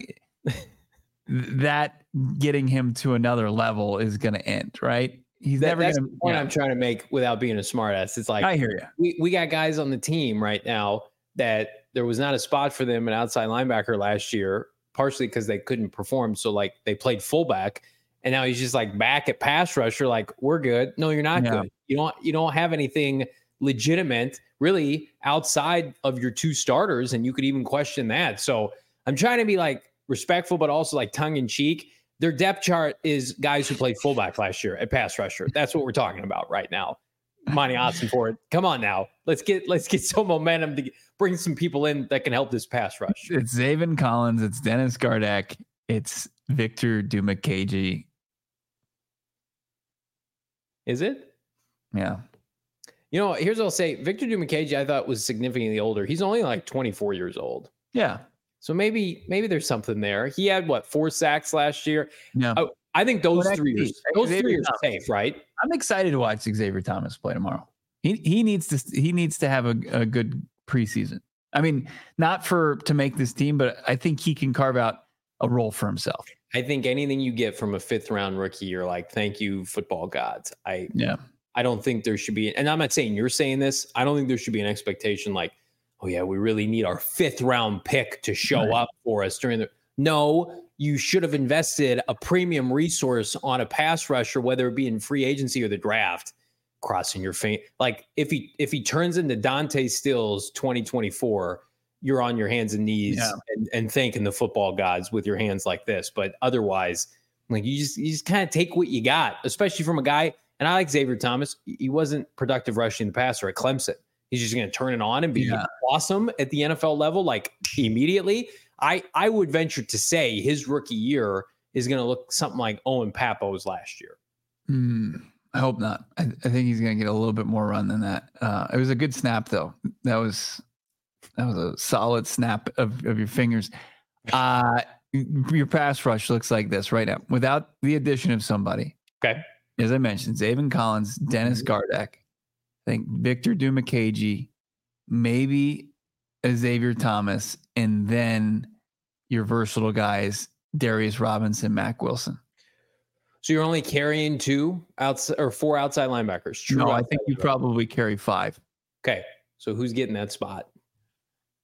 that getting him to another level is gonna end. Right. He's that, never that's gonna. the point yeah. I'm trying to make without being a smartass. It's like I hear you. We we got guys on the team right now that there was not a spot for them an outside linebacker last year, partially because they couldn't perform. So like they played fullback, and now he's just like back at pass rusher. Like, we're good. No, you're not yeah. good. You don't you don't have anything legitimate really outside of your two starters, and you could even question that. So I'm trying to be like respectful, but also like tongue in cheek. Their depth chart is guys who played fullback last year at pass rusher. That's what we're talking about right now. Monty Ossenfort, come on now. Let's get let's get some momentum to get, bring some people in that can help this pass rush. It's Zaven Collins. It's Dennis Gardeck. It's Victor Dimukeje. Is it? Yeah. You know, here's what I'll say. Victor Dimukeje, I thought, was significantly older. He's only like twenty-four years old. Yeah. So maybe maybe there's something there. He had what four sacks last year. Yeah, I, I think those well, three years, those Xavier three years are safe, right? I'm excited to watch Xavier Thomas play tomorrow. He he needs to he needs to have a, a good preseason. I mean, not for to make this team, but I think he can carve out a role for himself. I think anything you get from a fifth round rookie, you're like, thank you, football gods. I yeah. I don't think there should be, and I'm not saying you're saying this. I don't think there should be an expectation like, oh yeah, we really need our fifth round pick to show right. up for us during the. No, you should have invested a premium resource on a pass rusher, whether it be in free agency or the draft. Crossing your face, like if he if he turns into Dante Stills twenty twenty-four, you're on your hands and knees yeah. and, and thanking the football gods with your hands like this. But otherwise, like you just you just kind of take what you got, especially from a guy. And I like Xavier Thomas. He wasn't productive rushing the passer at Clemson. He's just going to turn it on and be yeah. awesome at the N F L level, like immediately. I, I would venture to say his rookie year is going to look something like Owen Pappoe's last year. Mm, I hope not. I, I think he's going to get a little bit more run than that. Uh, it was a good snap, though. That was that was a solid snap of, of your fingers. Uh, your pass rush looks like this right now without the addition of somebody. Okay. As I mentioned, Zaven Collins, Dennis Gardeck, I think Victor Dimukeje, maybe Xavier Thomas, and then your versatile guys, Darius Robinson, Mack Wilson. So you're only carrying two outside or four outside linebackers. True. No, I think you probably carry five. Okay. So who's getting that spot?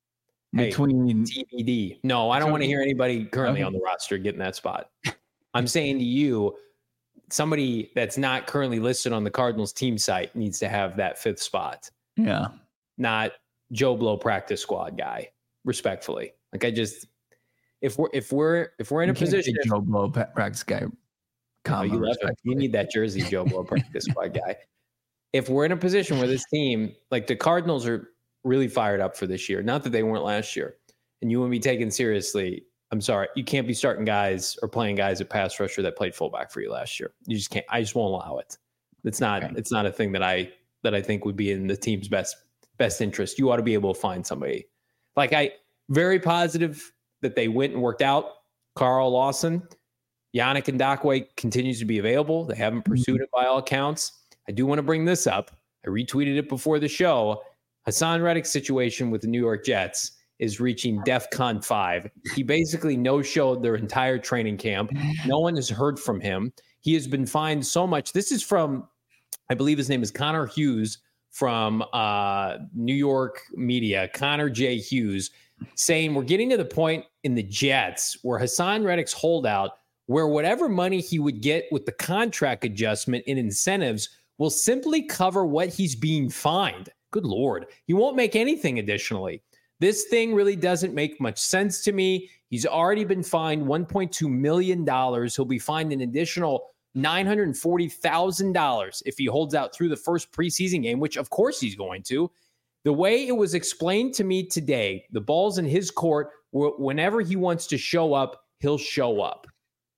between T B D. No, I don't want to hear anybody currently okay. on the roster getting that spot. I'm saying to you, somebody that's not currently listed on the Cardinals team site needs to have that fifth spot. Yeah. Not Joe Blow practice squad guy, respectfully. Like I just, if we're, if we're, if we're in you a position, if, Joe Blow practice guy, no, you love it. You need that jersey, Joe Blow practice squad guy. If we're in a position where this team, like the Cardinals are really fired up for this year, not that they weren't last year, and you want to be taken seriously, I'm sorry, you can't be starting guys or playing guys at pass rusher that played fullback for you last year. You just can't. I just won't allow it. It's not. Okay. It's not a thing that I that I think would be in the team's best best interest. You ought to be able to find somebody. Like I, very positive that they went and worked out Carl Lawson. Yannick Ngakoue continues to be available. They haven't pursued it by all accounts. I do want to bring this up. I retweeted it before the show. Haason Reddick's situation with the New York Jets is reaching DEFCON five. He basically no-showed their entire training camp. No one has heard from him. He has been fined so much. This is from, I believe his name is Connor Hughes from uh, New York media, Connor J. Hughes, saying we're getting to the point in the Jets where Haason Reddick's holdout, where whatever money he would get with the contract adjustment and incentives will simply cover what he's being fined. Good Lord. He won't make anything additionally. This thing really doesn't make much sense to me. He's already been fined one point two million dollars. He'll be fined an additional nine hundred forty thousand dollars if he holds out through the first preseason game, which of course he's going to. The way it was explained to me today, the ball's in his court. Whenever he wants to show up, he'll show up.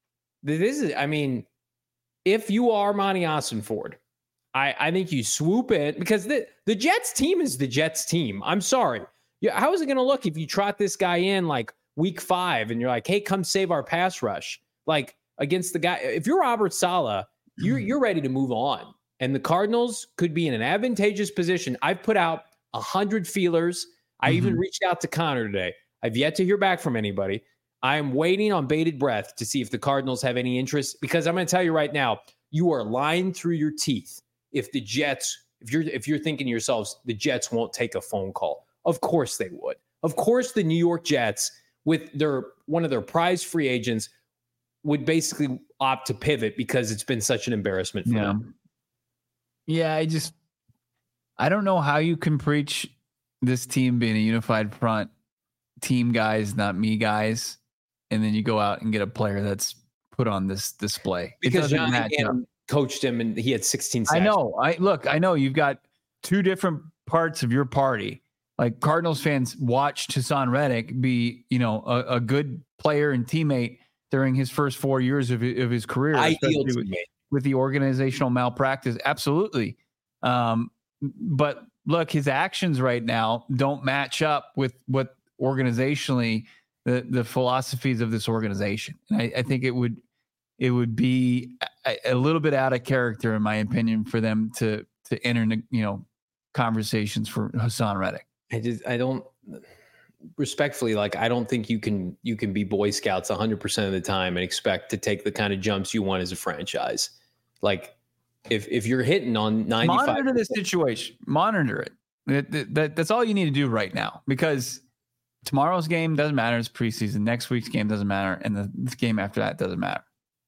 This is, I mean, if you are Monty Ossenford, I, I think you swoop in because the, the Jets team is the Jets team. I'm sorry. Yeah, how is it going to look if you trot this guy in like week five and you're like, hey, come save our pass rush? Like against the guy, if you're Robert Saleh, you're, you're ready to move on. And the Cardinals could be in an advantageous position. I've put out one hundred feelers. I mm-hmm. even reached out to Connor today. I've yet to hear back from anybody. I am waiting on bated breath to see if the Cardinals have any interest, because I'm going to tell you right now, you are lying through your teeth if the Jets, if you're if you're thinking to yourselves, the Jets won't take a phone call. Of course they would. Of course the New York Jets, with their one of their prize free agents, would basically opt to pivot because it's been such an embarrassment for yeah. them. Yeah, I just I don't know how you can preach this team being a unified front, team guys, not me guys, and then you go out and get a player that's put on this display. Because John Gannon coached him and he had sixteen sacks. I know. I look, I know you've got two different parts of your party. Like Cardinals fans watched Haason Reddick be, you know, a, a good player and teammate during his first four years of, of his career, Ideal with, with the organizational malpractice. Absolutely. Um, but look, his actions right now don't match up with what organizationally the, the philosophies of this organization. And I, I think it would, it would be a, a little bit out of character, in my opinion, for them to, to enter, you know, conversations for Haason Reddick. I just, I don't respectfully, like, I don't think you can, you can be Boy Scouts one hundred percent of the time and expect to take the kind of jumps you want as a franchise. Like if, if you're hitting on ninety-five, monitor the situation, monitor it. That, that, that. That's all you need to do right now, because tomorrow's game doesn't matter. It's preseason. Next week's game doesn't matter. And the, the game after that doesn't matter.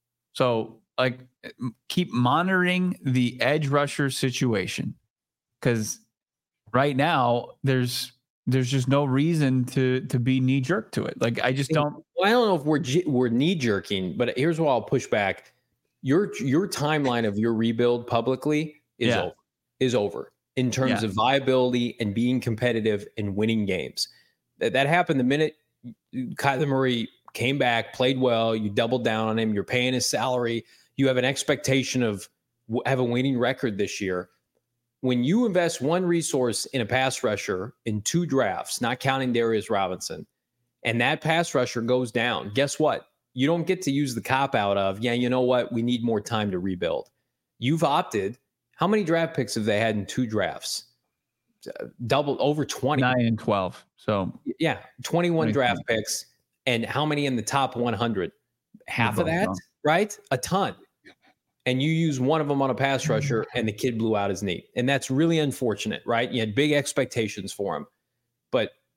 So like keep monitoring the edge rusher situation, because right now there's there's just no reason to to be knee jerk to it. Like I just don't. Well, I don't know if we're we're knee jerking, but here's what I'll push back. Your your timeline of your rebuild publicly is yeah. over. Is over in terms yeah. of viability and being competitive and winning games. That that happened the minute Kyler Murray came back, played well. You doubled down on him. You're paying his salary. You have an expectation of have a winning record this year. When you invest one resource in a pass rusher in two drafts, not counting Darius Robinson, and that pass rusher goes down, guess what? You don't get to use the cop out of, yeah, you know what? We need more time to rebuild. You've opted. How many draft picks have they had in two drafts? Double, over twenty. nine and twelve. So yeah, twenty-one draft picks. And how many in the top one hundred? Half of that, right? A ton. And you use one of them on a pass rusher and the kid blew out his knee. And that's really unfortunate, right? You had big expectations for him. But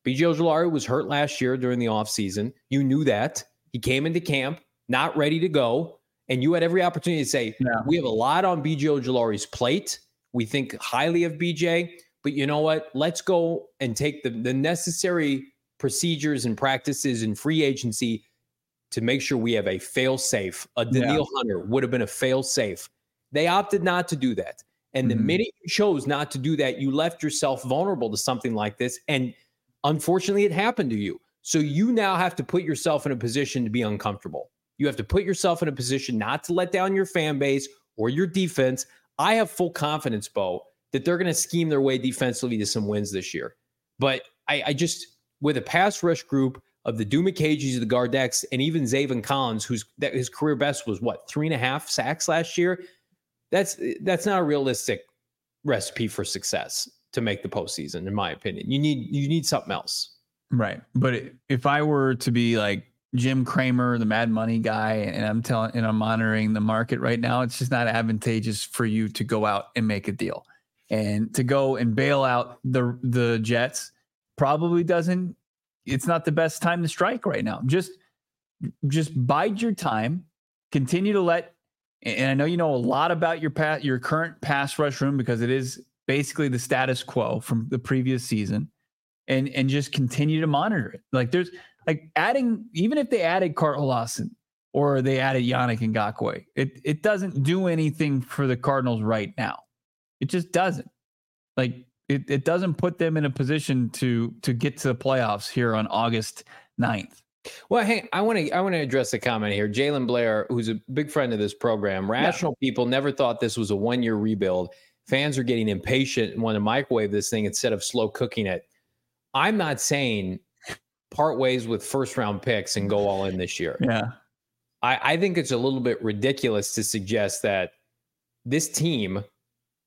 B J Ojulari was hurt last year during the offseason. You knew that. He came into camp not ready to go, and you had every opportunity to say, yeah. we have a lot on B J Ojulari's plate. We think highly of B J, but you know what? Let's go and take the, the necessary procedures and practices in free agency to make sure we have a fail-safe. A Daniil yeah. Hunter would have been a fail-safe. They opted not to do that. And the mm-hmm. minute you chose not to do that, you left yourself vulnerable to something like this. And unfortunately, it happened to you. So you now have to put yourself in a position to be uncomfortable. You have to put yourself in a position not to let down your fan base or your defense. I have full confidence, Bo, that they're going to scheme their way defensively to some wins this year. But I, I just, with a pass rush group of the Dumacagis, the Gardex, and even Zaven Collins, whose that his career best was what, three and a half sacks last year. That's that's not a realistic recipe for success to make the postseason, in my opinion. You need you need something else, right? But if I were to be like Jim Cramer, the Mad Money guy, and I'm telling and I'm monitoring the market right now, it's just not advantageous for you to go out and make a deal, and to go and bail out the the Jets probably doesn't. It's not the best time to strike right now. Just, just bide your time. Continue to let, and I know you know a lot about your pass, your current pass rush room because it is basically the status quo from the previous season, and and just continue to monitor it. Like there's like adding, even if they added Carl Lawson or they added Yannick Ngakoue, it it doesn't do anything for the Cardinals right now. It just doesn't. Like. It it doesn't put them in a position to to get to the playoffs here on August ninth. Well, hey, I want to I want to address the comment here. Jalen Blair, who's a big friend of this program, rational yeah. people never thought this was a one-year rebuild. Fans are getting impatient and want to microwave this thing instead of slow cooking it. I'm not saying part ways with first-round picks and go all in this year. Yeah. I, I think it's a little bit ridiculous to suggest that this team –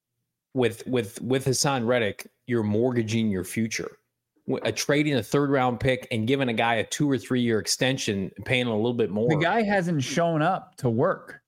With with with Hassan Reddick, you're mortgaging your future. A trading a third round pick and giving a guy a two or three year extension, paying a little bit more. The guy hasn't shown up to work.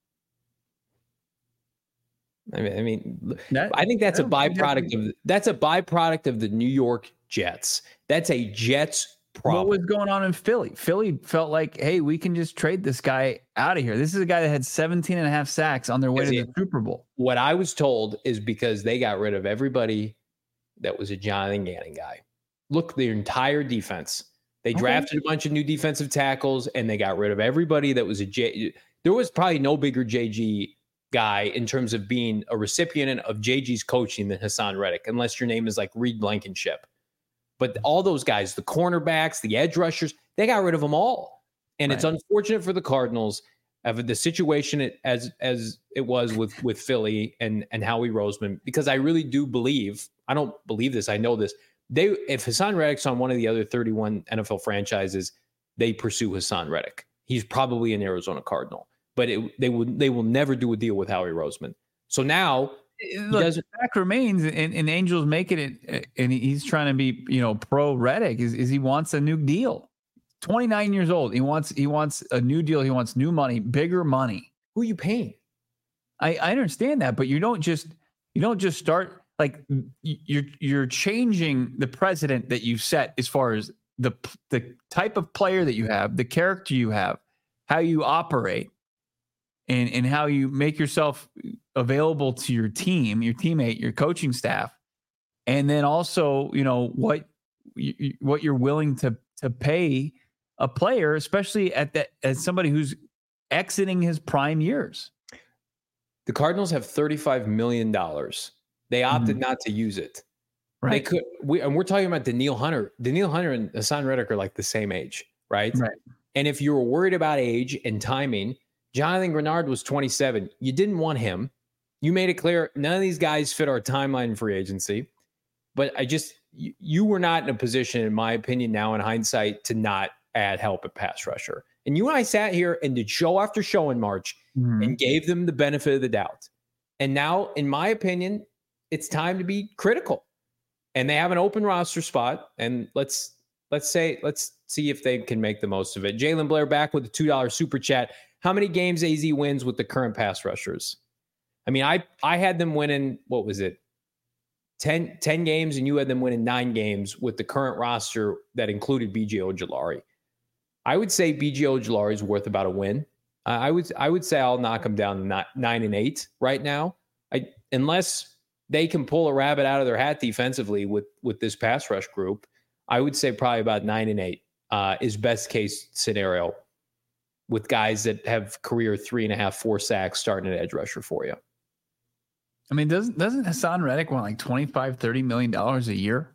I mean, I mean, that, I think that's a byproduct of that's a byproduct of the New York Jets. That's a Jets problem. What was going on in Philly? Philly felt like, hey, we can just trade this guy out of here. This is a guy that had seventeen and a half sacks on their way to the Super Bowl. What I was told is because they got rid of everybody that was a Jonathan Gannon guy. Look, their entire defense. They drafted okay. a bunch of new defensive tackles, and they got rid of everybody that was a J. There was probably no bigger J G guy in terms of being a recipient of J G's coaching than Hassan Reddick, unless your name is like Reed Blankenship. But all those guys, the cornerbacks, the edge rushers, they got rid of them all. And right. it's unfortunate for the Cardinals of the situation it, as as it was with, with Philly and, and Howie Roseman, because I really do believe, I don't believe this, I know this, they if Hassan Reddick's on one of the other thirty-one N F L franchises, they pursue Hassan Reddick. He's probably an Arizona Cardinal. But it, they, will, they will never do a deal with Howie Roseman. So now... Look, the fact remains, and, and Angels making it, and he's trying to be, you know, pro Reddick. Is, is he wants a new deal? twenty-nine years old. He wants he wants a new deal. He wants new money, bigger money. Who are you paying? I, I understand that, but you don't just you don't just start like you're you're changing the precedent that you set as far as the the type of player that you have, the character you have, how you operate. And, and how you make yourself available to your team, your teammate, your coaching staff, and then also, you know, what you, what you're willing to to pay a player, especially at that as somebody who's exiting his prime years. The Cardinals have thirty-five million dollars. They opted mm-hmm. not to use it. Right. They could. We and we're talking about Daniil Hunter. Daniil Hunter and Hassan Reddick are like the same age, right? Right. And if you were worried about age and timing. Jonathan Grenard was twenty-seven. You didn't want him. You made it clear none of these guys fit our timeline free agency. But I just, you, you were not in a position, in my opinion, now in hindsight, to not add help at pass rusher. And you and I sat here and did show after show in March mm-hmm. and gave them the benefit of the doubt. And now, in my opinion, it's time to be critical. And they have an open roster spot. And let's let's say, let's see if they can make the most of it. Jalen Blair back with a two dollar super chat. How many games A Z wins with the current pass rushers? I mean, I I had them winning, what was it? ten, ten games, and you had them winning nine games with the current roster that included B J Ojulari. I would say B J Ojulari is worth about a win. Uh, I would I would say I'll knock him down to nine, nine and eight right now. I unless they can pull a rabbit out of their hat defensively with with this pass rush group, I would say probably about nine and eight uh, is best case scenario with guys that have career three and a half, four sacks starting at edge rusher for you. I mean, doesn't doesn't Hassan Reddick want like twenty-five, thirty million dollars a year?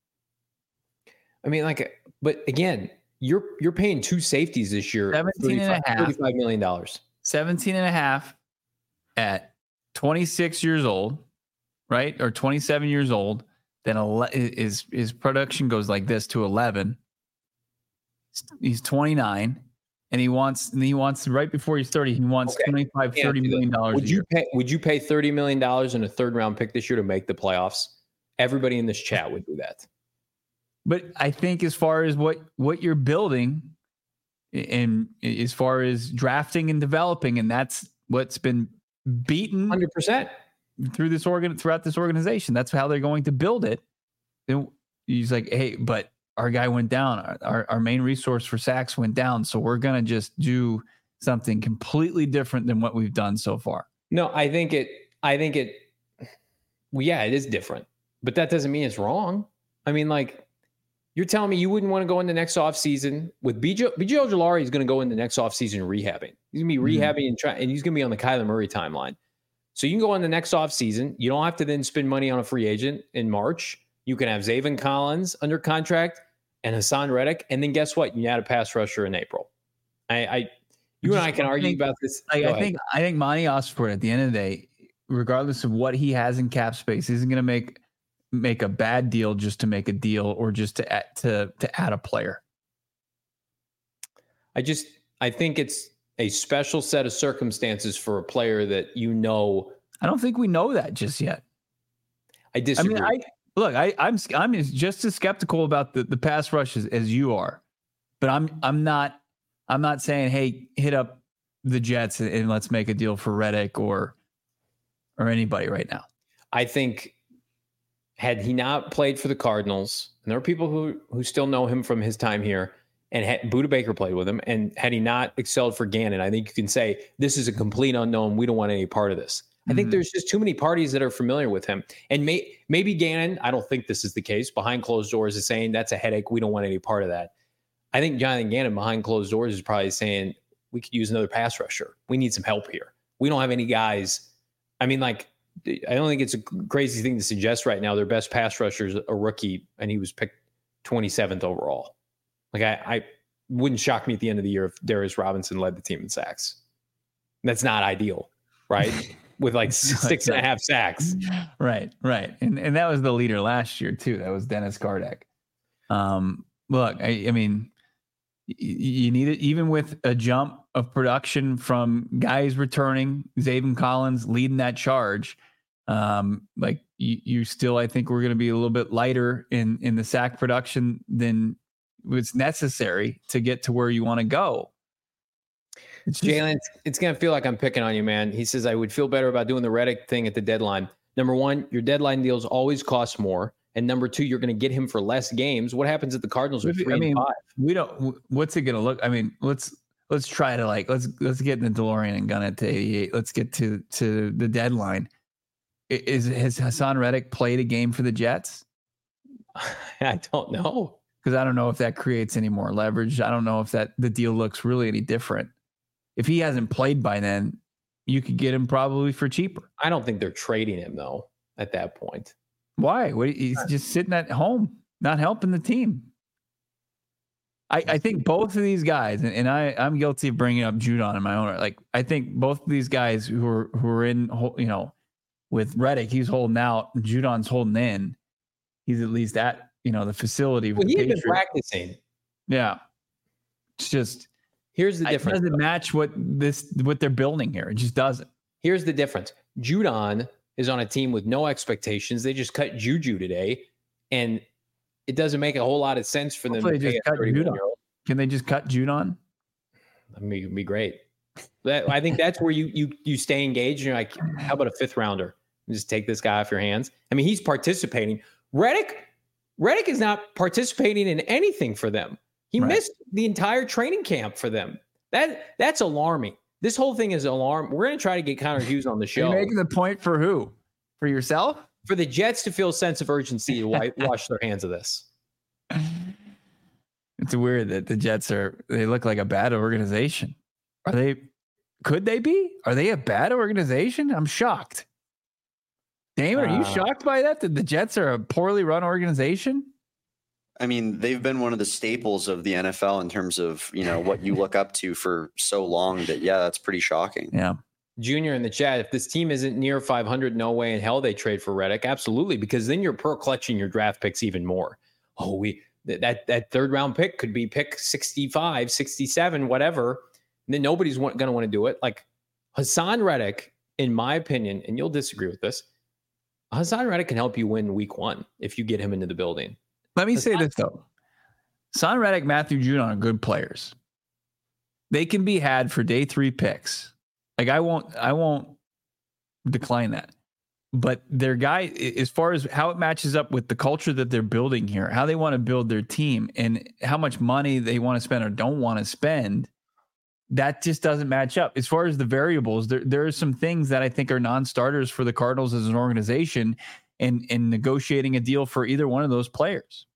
I mean, like, but again, you're you're paying two safeties this year, seventeen and a half, thirty-five million dollars. seventeen and a half at twenty-six years old, right? Or twenty-seven years old. Then ele- his his production goes like this to eleven. He's twenty-nine. And he wants, and he wants right before he's thirty, he wants okay. twenty-five, thirty million dollars. Would you pay, would you pay thirty million dollars in a third round pick this year to make the playoffs? Everybody in this chat would do that. But I think as far as what, what you're building and as far as drafting and developing, and that's what's been beaten one hundred percent through this organ, throughout this organization. That's how they're going to build it. And he's like, hey, but our guy went down. Our, our main resource for sacks went down. So we're going to just do something completely different than what we've done so far. No, I think it, I think it, well, yeah, it is different, but that doesn't mean it's wrong. I mean, like, you're telling me you wouldn't want to go in the next offseason with B J, B J Ojulari is going to go in the next offseason rehabbing. He's going to be rehabbing mm-hmm. and try, and he's going to be on the Kyler Murray timeline. So you can go on the next offseason. You don't have to then spend money on a free agent in March. You can have Zaven Collins under contract and Hassan Reddick, and then guess what? You add a pass rusher in April. I, I you and I can argue think, about this. I, I think I think Monty Osborne at the end of the day, regardless of what he has in cap space, isn't going to make make a bad deal just to make a deal or just to add, to to add a player. I just I think it's a special set of circumstances for a player that you know. I don't think we know that just yet. I disagree. I mean, I. Look, I, I'm I'm just as skeptical about the, the pass rush as, as you are, but I'm I'm not I'm not saying, hey, hit up the Jets and, and let's make a deal for Reddick or or anybody right now. I think had he not played for the Cardinals, and there are people who who still know him from his time here, and had, Budda Baker played with him, and had he not excelled for Gannon, I think you can say this is a complete unknown. We don't want any part of this. I think mm-hmm. there's just too many parties that are familiar with him. And may, maybe Gannon, I don't think this is the case, behind closed doors is saying that's a headache. We don't want any part of that. I think Jonathan Gannon behind closed doors is probably saying we could use another pass rusher. We need some help here. We don't have any guys. I mean, like, I don't think it's a crazy thing to suggest right now. Their best pass rusher is a rookie, and he was picked twenty-seventh overall. Like, I, I wouldn't shock me at the end of the year if Darius Robinson led the team in sacks. That's not ideal, right? With like six and a half sacks. Right, right. And and that was the leader last year too. That was Dennis Gardeck. Um, look, I, I mean, y- you need it even with a jump of production from guys returning, Zaven Collins leading that charge. Um, like you, you still, I think we're going to be a little bit lighter in, in the sack production than was necessary to get to where you want to go. Jalen, it's going to feel like I'm picking on you, man. He says, I would feel better about doing the Reddick thing at the deadline. Number one, your deadline deals always cost more. And number two, you're going to get him for less games. What happens if the Cardinals are three I mean, and five? We don't, what's it going to look? I mean, let's, let's try to like, let's, let's get in the DeLorean and gun it to eighty-eight. Let's get to, to the deadline. Is, has Hassan Reddick played a game for the Jets? I don't know. Because I don't know if that creates any more leverage. I don't know if that the deal looks really any different. If he hasn't played by then, you could get him probably for cheaper. I don't think they're trading him, though, at that point. Why? What, he's just sitting at home, not helping the team. I, I think both of these guys, and, and I, I'm guilty of bringing up Judon in my own. Like, I think both of these guys who are who are in, you know, with Reddick, he's holding out, Judon's holding in. He's at least at, you know, the facility. Well, he's been practicing. Yeah, it's just. Here's the difference. It doesn't match what this what they're building here. It just doesn't. Here's the difference. Judon is on a team with no expectations. They just cut Juju today, and it doesn't make a whole lot of sense for Hopefully them to just pay cut a Judon. Can they just cut Judon? I mean, it'd be great. That, I think that's where you you you stay engaged. And you're like, how about a fifth rounder? Just take this guy off your hands. I mean, he's participating. Reddick, Reddick is not participating in anything for them. He right. missed the entire training camp for them. That that's alarming. This whole thing is alarming. We're going to try to get Connor Hughes on the show. Are you making the point for who? For yourself? For the Jets to feel a sense of urgency to wipe, wash their hands of this. It's weird that the Jets are, they look like a bad organization. Are they, could they be? Are they a bad organization? I'm shocked. Damon, are you uh, shocked by that? That the Jets are a poorly run organization? I mean, they've been one of the staples of the N F L in terms of, you know, what you look up to for so long that, yeah, that's pretty shocking. Yeah. Junior in the chat, if this team isn't near five hundred, no way in hell they trade for Reddick. Absolutely, because then you're per clutching your draft picks even more. Oh, we that that third round pick could be pick sixty-five, sixty-seven, whatever. And then nobody's going to want to do it. Like Hassan Reddick, in my opinion, and you'll disagree with this, Hassan Reddick can help you win week one if you get him into the building. Let me Hassan, say this, though. Hassan Reddick, Matthew Judon are good players. They can be had for day three picks. Like I won't, I won't decline that. But their guy, as far as how it matches up with the culture that they're building here, how they want to build their team, and how much money they want to spend or don't want to spend, that just doesn't match up. As far as the variables, there there are some things that I think are non-starters for the Cardinals as an organization, and and negotiating a deal for either one of those players.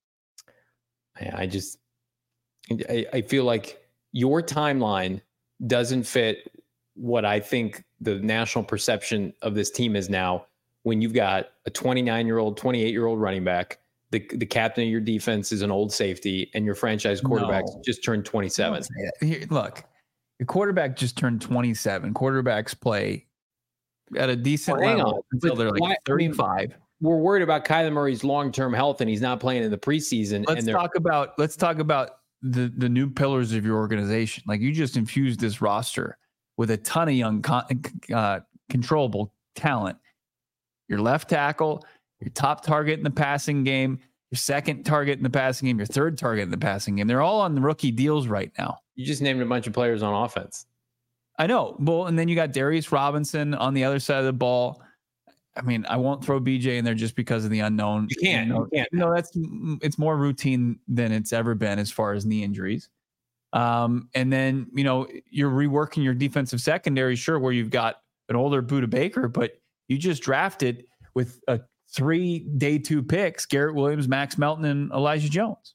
I just, I, I feel like your timeline doesn't fit what I think the national perception of this team is now. When you've got a twenty-nine-year-old, twenty-eight-year-old running back, the the captain of your defense is an old safety, and your franchise quarterback no. just turned twenty-seven. Here, look, your quarterback just turned twenty-seven. Quarterbacks play at a decent well, level until they're like why, thirty-five. I mean, we're worried about Kyler Murray's long-term health, and he's not playing in the preseason. Let's and talk about let's talk about the the new pillars of your organization. Like you just infused this roster with a ton of young, uh, controllable talent. Your left tackle, your top target in the passing game, your second target in the passing game, your third target in the passing game. They're all on the rookie deals right now. You just named a bunch of players on offense. I know. Well, and then you got Darius Robinson on the other side of the ball. I mean, I won't throw B J in there just because of the unknown. You can't. You, know, you can't. No, that's it's more routine than it's ever been as far as knee injuries. Um, and then, you know, you're reworking your defensive secondary, sure, where you've got an older Budda Baker, but you just drafted with a three day two picks, Garrett Williams, Max Melton, and Elijah Jones.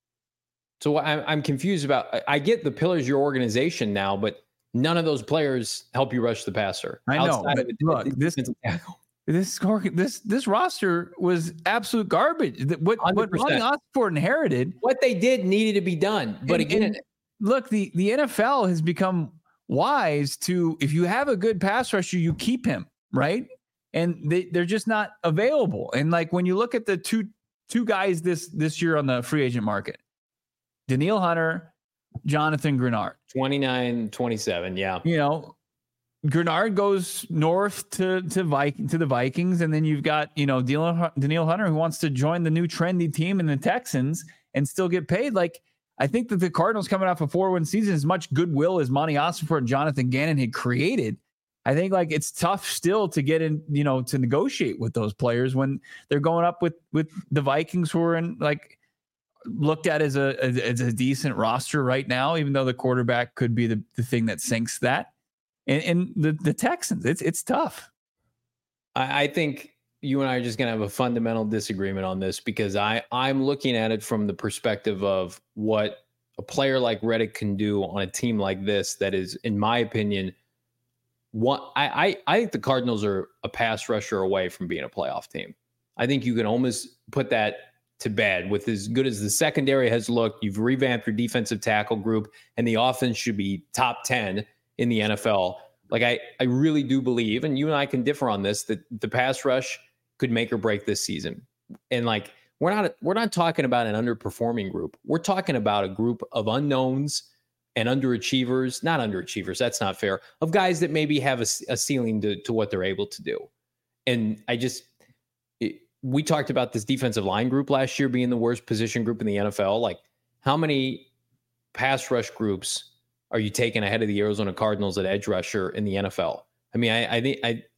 So I'm, I'm confused about, I get the pillars of your organization now, but none of those players help you rush the passer. I know. But it, look, it, this, this, this, this roster was absolute garbage. What, what Ronnie Osborne inherited. What they did needed to be done. But and, again, and look, the, the N F L has become wise to, if you have a good pass rusher, you keep him, right? And they, they're just not available. And like when you look at the two two guys this this year on the free agent market, Danielle Hunter, Jonathan Grenard. twenty-nine, twenty-seven, yeah. You know, Grenard goes north to to Viking to the Vikings, and then you've got, you know, Danielle Hunter who wants to join the new trendy team in the Texans and still get paid. Like, I think that the Cardinals coming off a four win season, as much goodwill as Monty Ossenfort and Jonathan Gannon had created, I think like it's tough still to get in, you know, to negotiate with those players when they're going up with, with the Vikings, who are in like looked at as a, as a decent roster right now, even though the quarterback could be the, the thing that sinks that. And, and the, the Texans, it's, it's tough. I, I think you and I are just going to have a fundamental disagreement on this, because I I'm looking at it from the perspective of what a player like Reddick can do on a team like this. That is, in my opinion, One, I, I I think the Cardinals are a pass rusher away from being a playoff team. I think you can almost put that to bed with as good as the secondary has looked. You've revamped your defensive tackle group, and the offense should be top ten in the N F L. Like I, I really do believe, and you and I can differ on this, that the pass rush could make or break this season. And like we're not we're not talking about an underperforming group. We're talking about a group of unknowns and underachievers, not underachievers, that's not fair, of guys that maybe have a, a ceiling to, to what they're able to do. And I just, it, we talked about this defensive line group last year being the worst position group in the N F L. Like, how many pass rush groups are you taking ahead of the Arizona Cardinals at edge rusher in the N F L? I mean, I, I think I,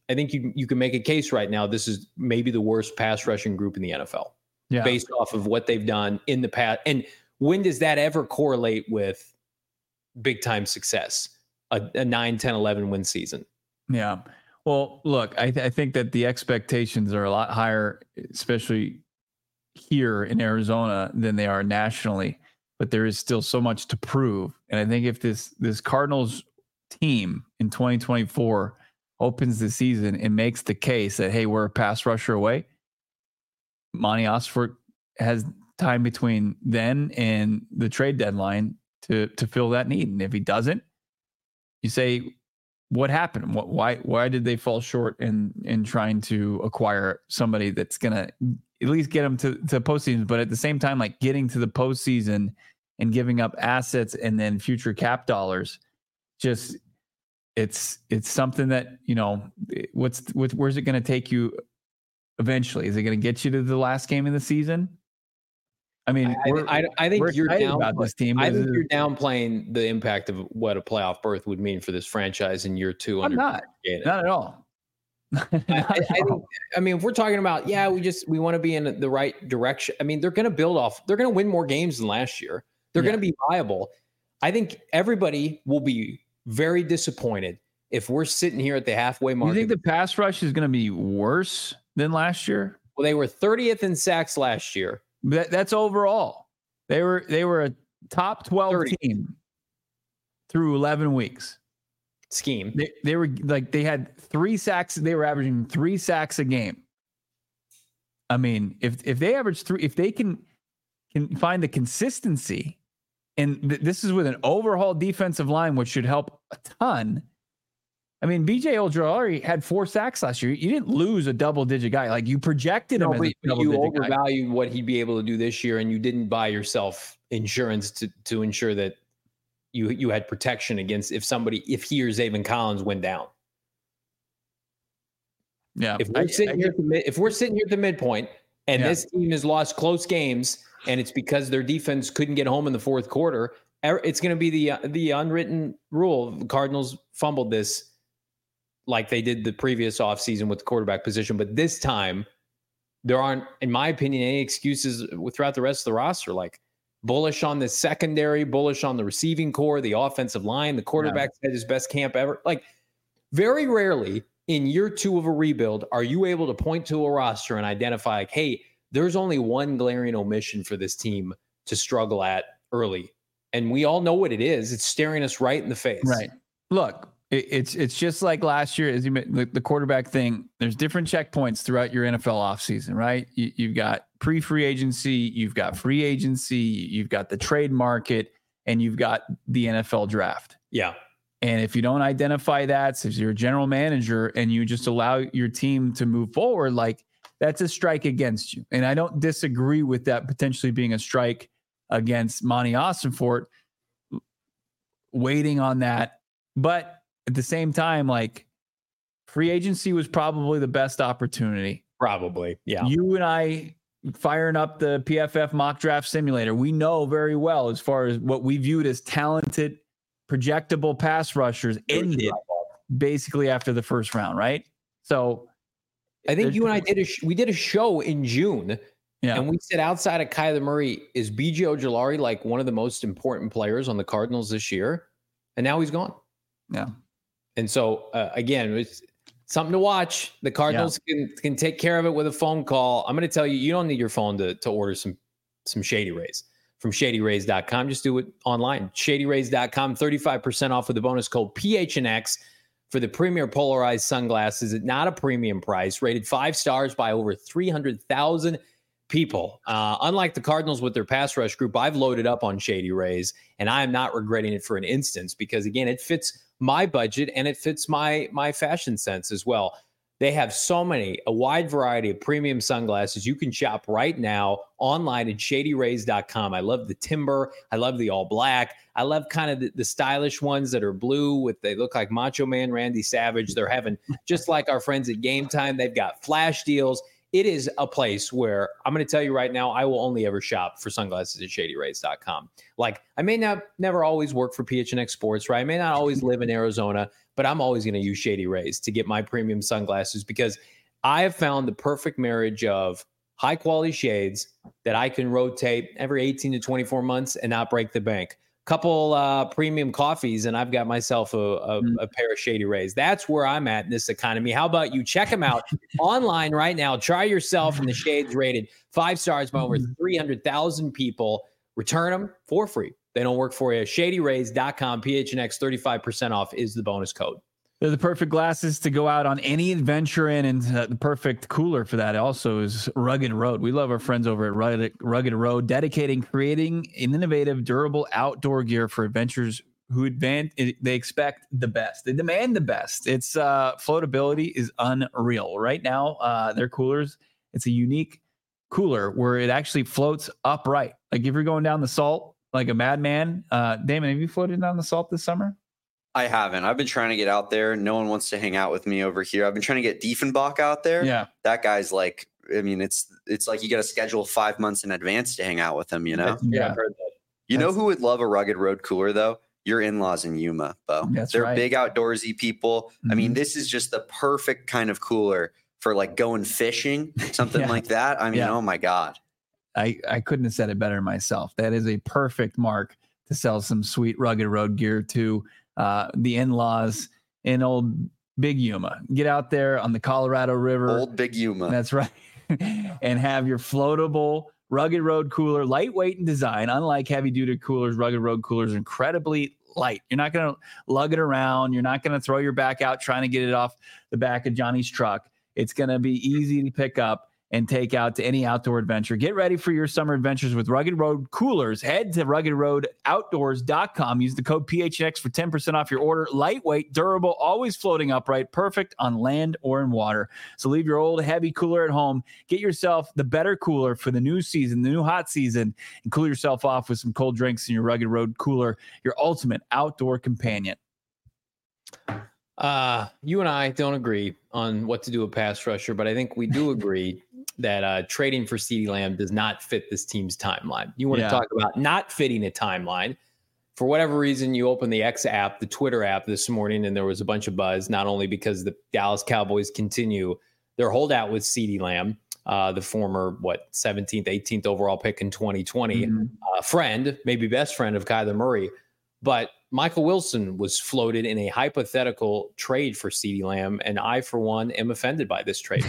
I think you you can make a case right now. This is maybe the worst pass rushing group in the N F L, yeah. based off of what they've done in the past. And when does that ever correlate with big time success? A, a nine, ten, eleven win season. Yeah. Well, look, I, th- I think that the expectations are a lot higher, especially here in Arizona, than they are nationally. But there is still so much to prove. And I think if this this Cardinals team in twenty twenty-four opens the season and makes the case that, hey, we're a pass rusher away, Monty Ossenfort has time between then and the trade deadline to to fill that need. And if he doesn't, you say, what happened? What, why why did they fall short in in trying to acquire somebody that's going to at least get them to, to postseason, but at the same time, like getting to the postseason and giving up assets and then future cap dollars, just it's it's something that, you know, what's what, where's it going to take you eventually? Is it going to get you to the last game of the season? I mean, I, I, I think you're down about this team. I think you're downplaying the impact of what a playoff berth would mean for this franchise in year two. I'm not, not at all. I, I, I, think, I mean, if we're talking about, yeah, we just we want to be in the right direction. I mean, they're going to build off. They're going to win more games than last year. They're yeah. going to be viable. I think everybody will be very disappointed if we're sitting here at the halfway mark. You think the pass rush is going to be worse than last year? Well, they were thirtieth in sacks last year. That, that's overall. They were they were a top twelve thirty team through eleven weeks. Scheme. They, they were like they had three sacks. They were averaging three sacks a game. I mean, if if they average three, if they can can find the consistency, and th- this is with an overhauled defensive line, which should help a ton. I mean, B J Ojulari had four sacks last year. You didn't lose a double-digit guy. Like, you projected no, him as a double-digit you guy. You overvalued what he'd be able to do this year, and you didn't buy yourself insurance to to ensure that you you had protection against if somebody, if he or Zaven Collins went down. Yeah. If we're I, sitting I, here, at the mid, if we're sitting here at the midpoint, and yeah. this team has lost close games, and it's because their defense couldn't get home in the fourth quarter, it's going to be the the unwritten rule. The Cardinals fumbled this like they did the previous offseason with the quarterback position. But this time, there aren't, in my opinion, any excuses throughout the rest of the roster. Like, bullish on the secondary, bullish on the receiving core, the offensive line, the quarterback yeah. had his best camp ever. Like, very rarely in year two of a rebuild are you able to point to a roster and identify, like, hey, there's only one glaring omission for this team to struggle at early. And we all know what it is. It's staring us right in the face. Right. Look, it, it's it's just like last year, as you the, the quarterback thing. There's different checkpoints throughout your N F L offseason, right? You, you've got pre-free agency, you've got free agency, you've got the trade market, and you've got the N F L draft. Yeah. And if you don't identify that, so if you're a general manager and you just allow your team to move forward, like, that's a strike against you. And I don't disagree with that potentially being a strike against Monty Ossenfort, waiting on that. But at the same time, like, free agency was probably the best opportunity. Probably. Yeah. You and I firing up the P F F mock draft simulator, we know very well, as far as what we viewed as talented, projectable pass rushers ended basically after the first round, right? So I think you and I did a sh- we did a show in June, yeah. and we said, outside of Kyler Murray, is B J Ojulari like one of the most important players on the Cardinals this year? And now he's gone. Yeah. And so uh, again, it's something to watch. The Cardinals yeah. can can take care of it with a phone call. I'm going to tell you, you don't need your phone to to order some some Shady Rays from shady rays dot com. Just do it online. shady rays dot com, thirty-five percent off with the bonus code P H N X for the premier polarized sunglasses at not a premium price, rated five stars by over three hundred thousand people. Uh, unlike the Cardinals with their pass rush group, I've loaded up on Shady Rays, and I am not regretting it for an instance, because again, it fits my budget and it fits my my fashion sense as well. They have so many, a wide variety of premium sunglasses. You can shop right now online at shady rays dot com. I love the timber. I love the all black. I love kind of the, the stylish ones that are blue with, they look like Macho Man Randy Savage. They're having, just like our friends at Game Time, they've got flash deals. it is a place where I'm going to tell you right now, I will only ever shop for sunglasses at shady rays dot com. Like, I may not never always work for P H N X Sports, right? I may not always live in Arizona, but I'm always going to use Shady Rays to get my premium sunglasses because I have found the perfect marriage of high quality shades that I can rotate every eighteen to twenty-four months and not break the bank. Couple uh, premium coffees, and I've got myself a, a, a pair of Shady Rays. That's where I'm at in this economy. How about you check them out online right now? Try yourself in the shades rated five stars by over three hundred thousand people. Return them for free. They don't work for you. shady rays dot com, P H N X, thirty-five percent off is the bonus code. They're the perfect glasses to go out on any adventure in, and uh, the perfect cooler for that also is Rugged Road. We love our friends over at Rugged, Rugged Road, dedicating creating an innovative, durable outdoor gear for adventures who advance. They expect the best. They demand the best. Its uh, floatability is unreal. Right now, uh, their coolers, it's a unique cooler where it actually floats upright. Like if you're going down the salt like a madman. Uh, Damon, have you floated down the salt this summer? I haven't. I've been trying to get out there. No one wants to hang out with me over here. I've been trying to get Diefenbach out there. Yeah. That guy's like, I mean, it's it's like you got to schedule five months in advance to hang out with him, you know? Yeah, I've heard that. You That's, know who would love a Rugged Road cooler, though? Your in-laws in Yuma, Bo. That's They're right. big outdoorsy people. Mm-hmm. I mean, this is just the perfect kind of cooler for like going fishing, something Yeah. like that. I mean, Yeah. oh my God. I, I couldn't have said it better myself. That is a perfect mark to sell some sweet Rugged Road gear to uh, the in-laws in old Big Yuma. Get out there on the Colorado River. Old Big Yuma. That's right. And have your floatable Rugged Road cooler, lightweight in design. Unlike heavy-duty coolers, Rugged Road coolers are incredibly light. You're not going to lug it around. You're not going to throw your back out trying to get it off the back of Johnny's truck. It's going to be easy to pick up and take out to any outdoor adventure. Get ready for your summer adventures with Rugged Road coolers. Head to rugged road outdoors dot com. Use the code P H N X for ten percent off your order. Lightweight, durable, always floating upright, perfect on land or in water. So leave your old heavy cooler at home. Get yourself the better cooler for the new season, the new hot season, and cool yourself off with some cold drinks in your Rugged Road cooler, your ultimate outdoor companion. Uh, you and I don't agree on what to do with pass rusher, but I think we do agree that uh, trading for CeeDee Lamb does not fit this team's timeline. You want Yeah. to talk about not fitting a timeline. For whatever reason, you open the X app, the Twitter app this morning, and there was a bunch of buzz, not only because the Dallas Cowboys continue their holdout with CeeDee Lamb, uh, the former, what, seventeenth, eighteenth overall pick in twenty twenty, Mm-hmm. uh, friend, maybe best friend of Kyler Murray, but Michael Wilson was floated in a hypothetical trade for CeeDee Lamb, and I, for one, am offended by this trade.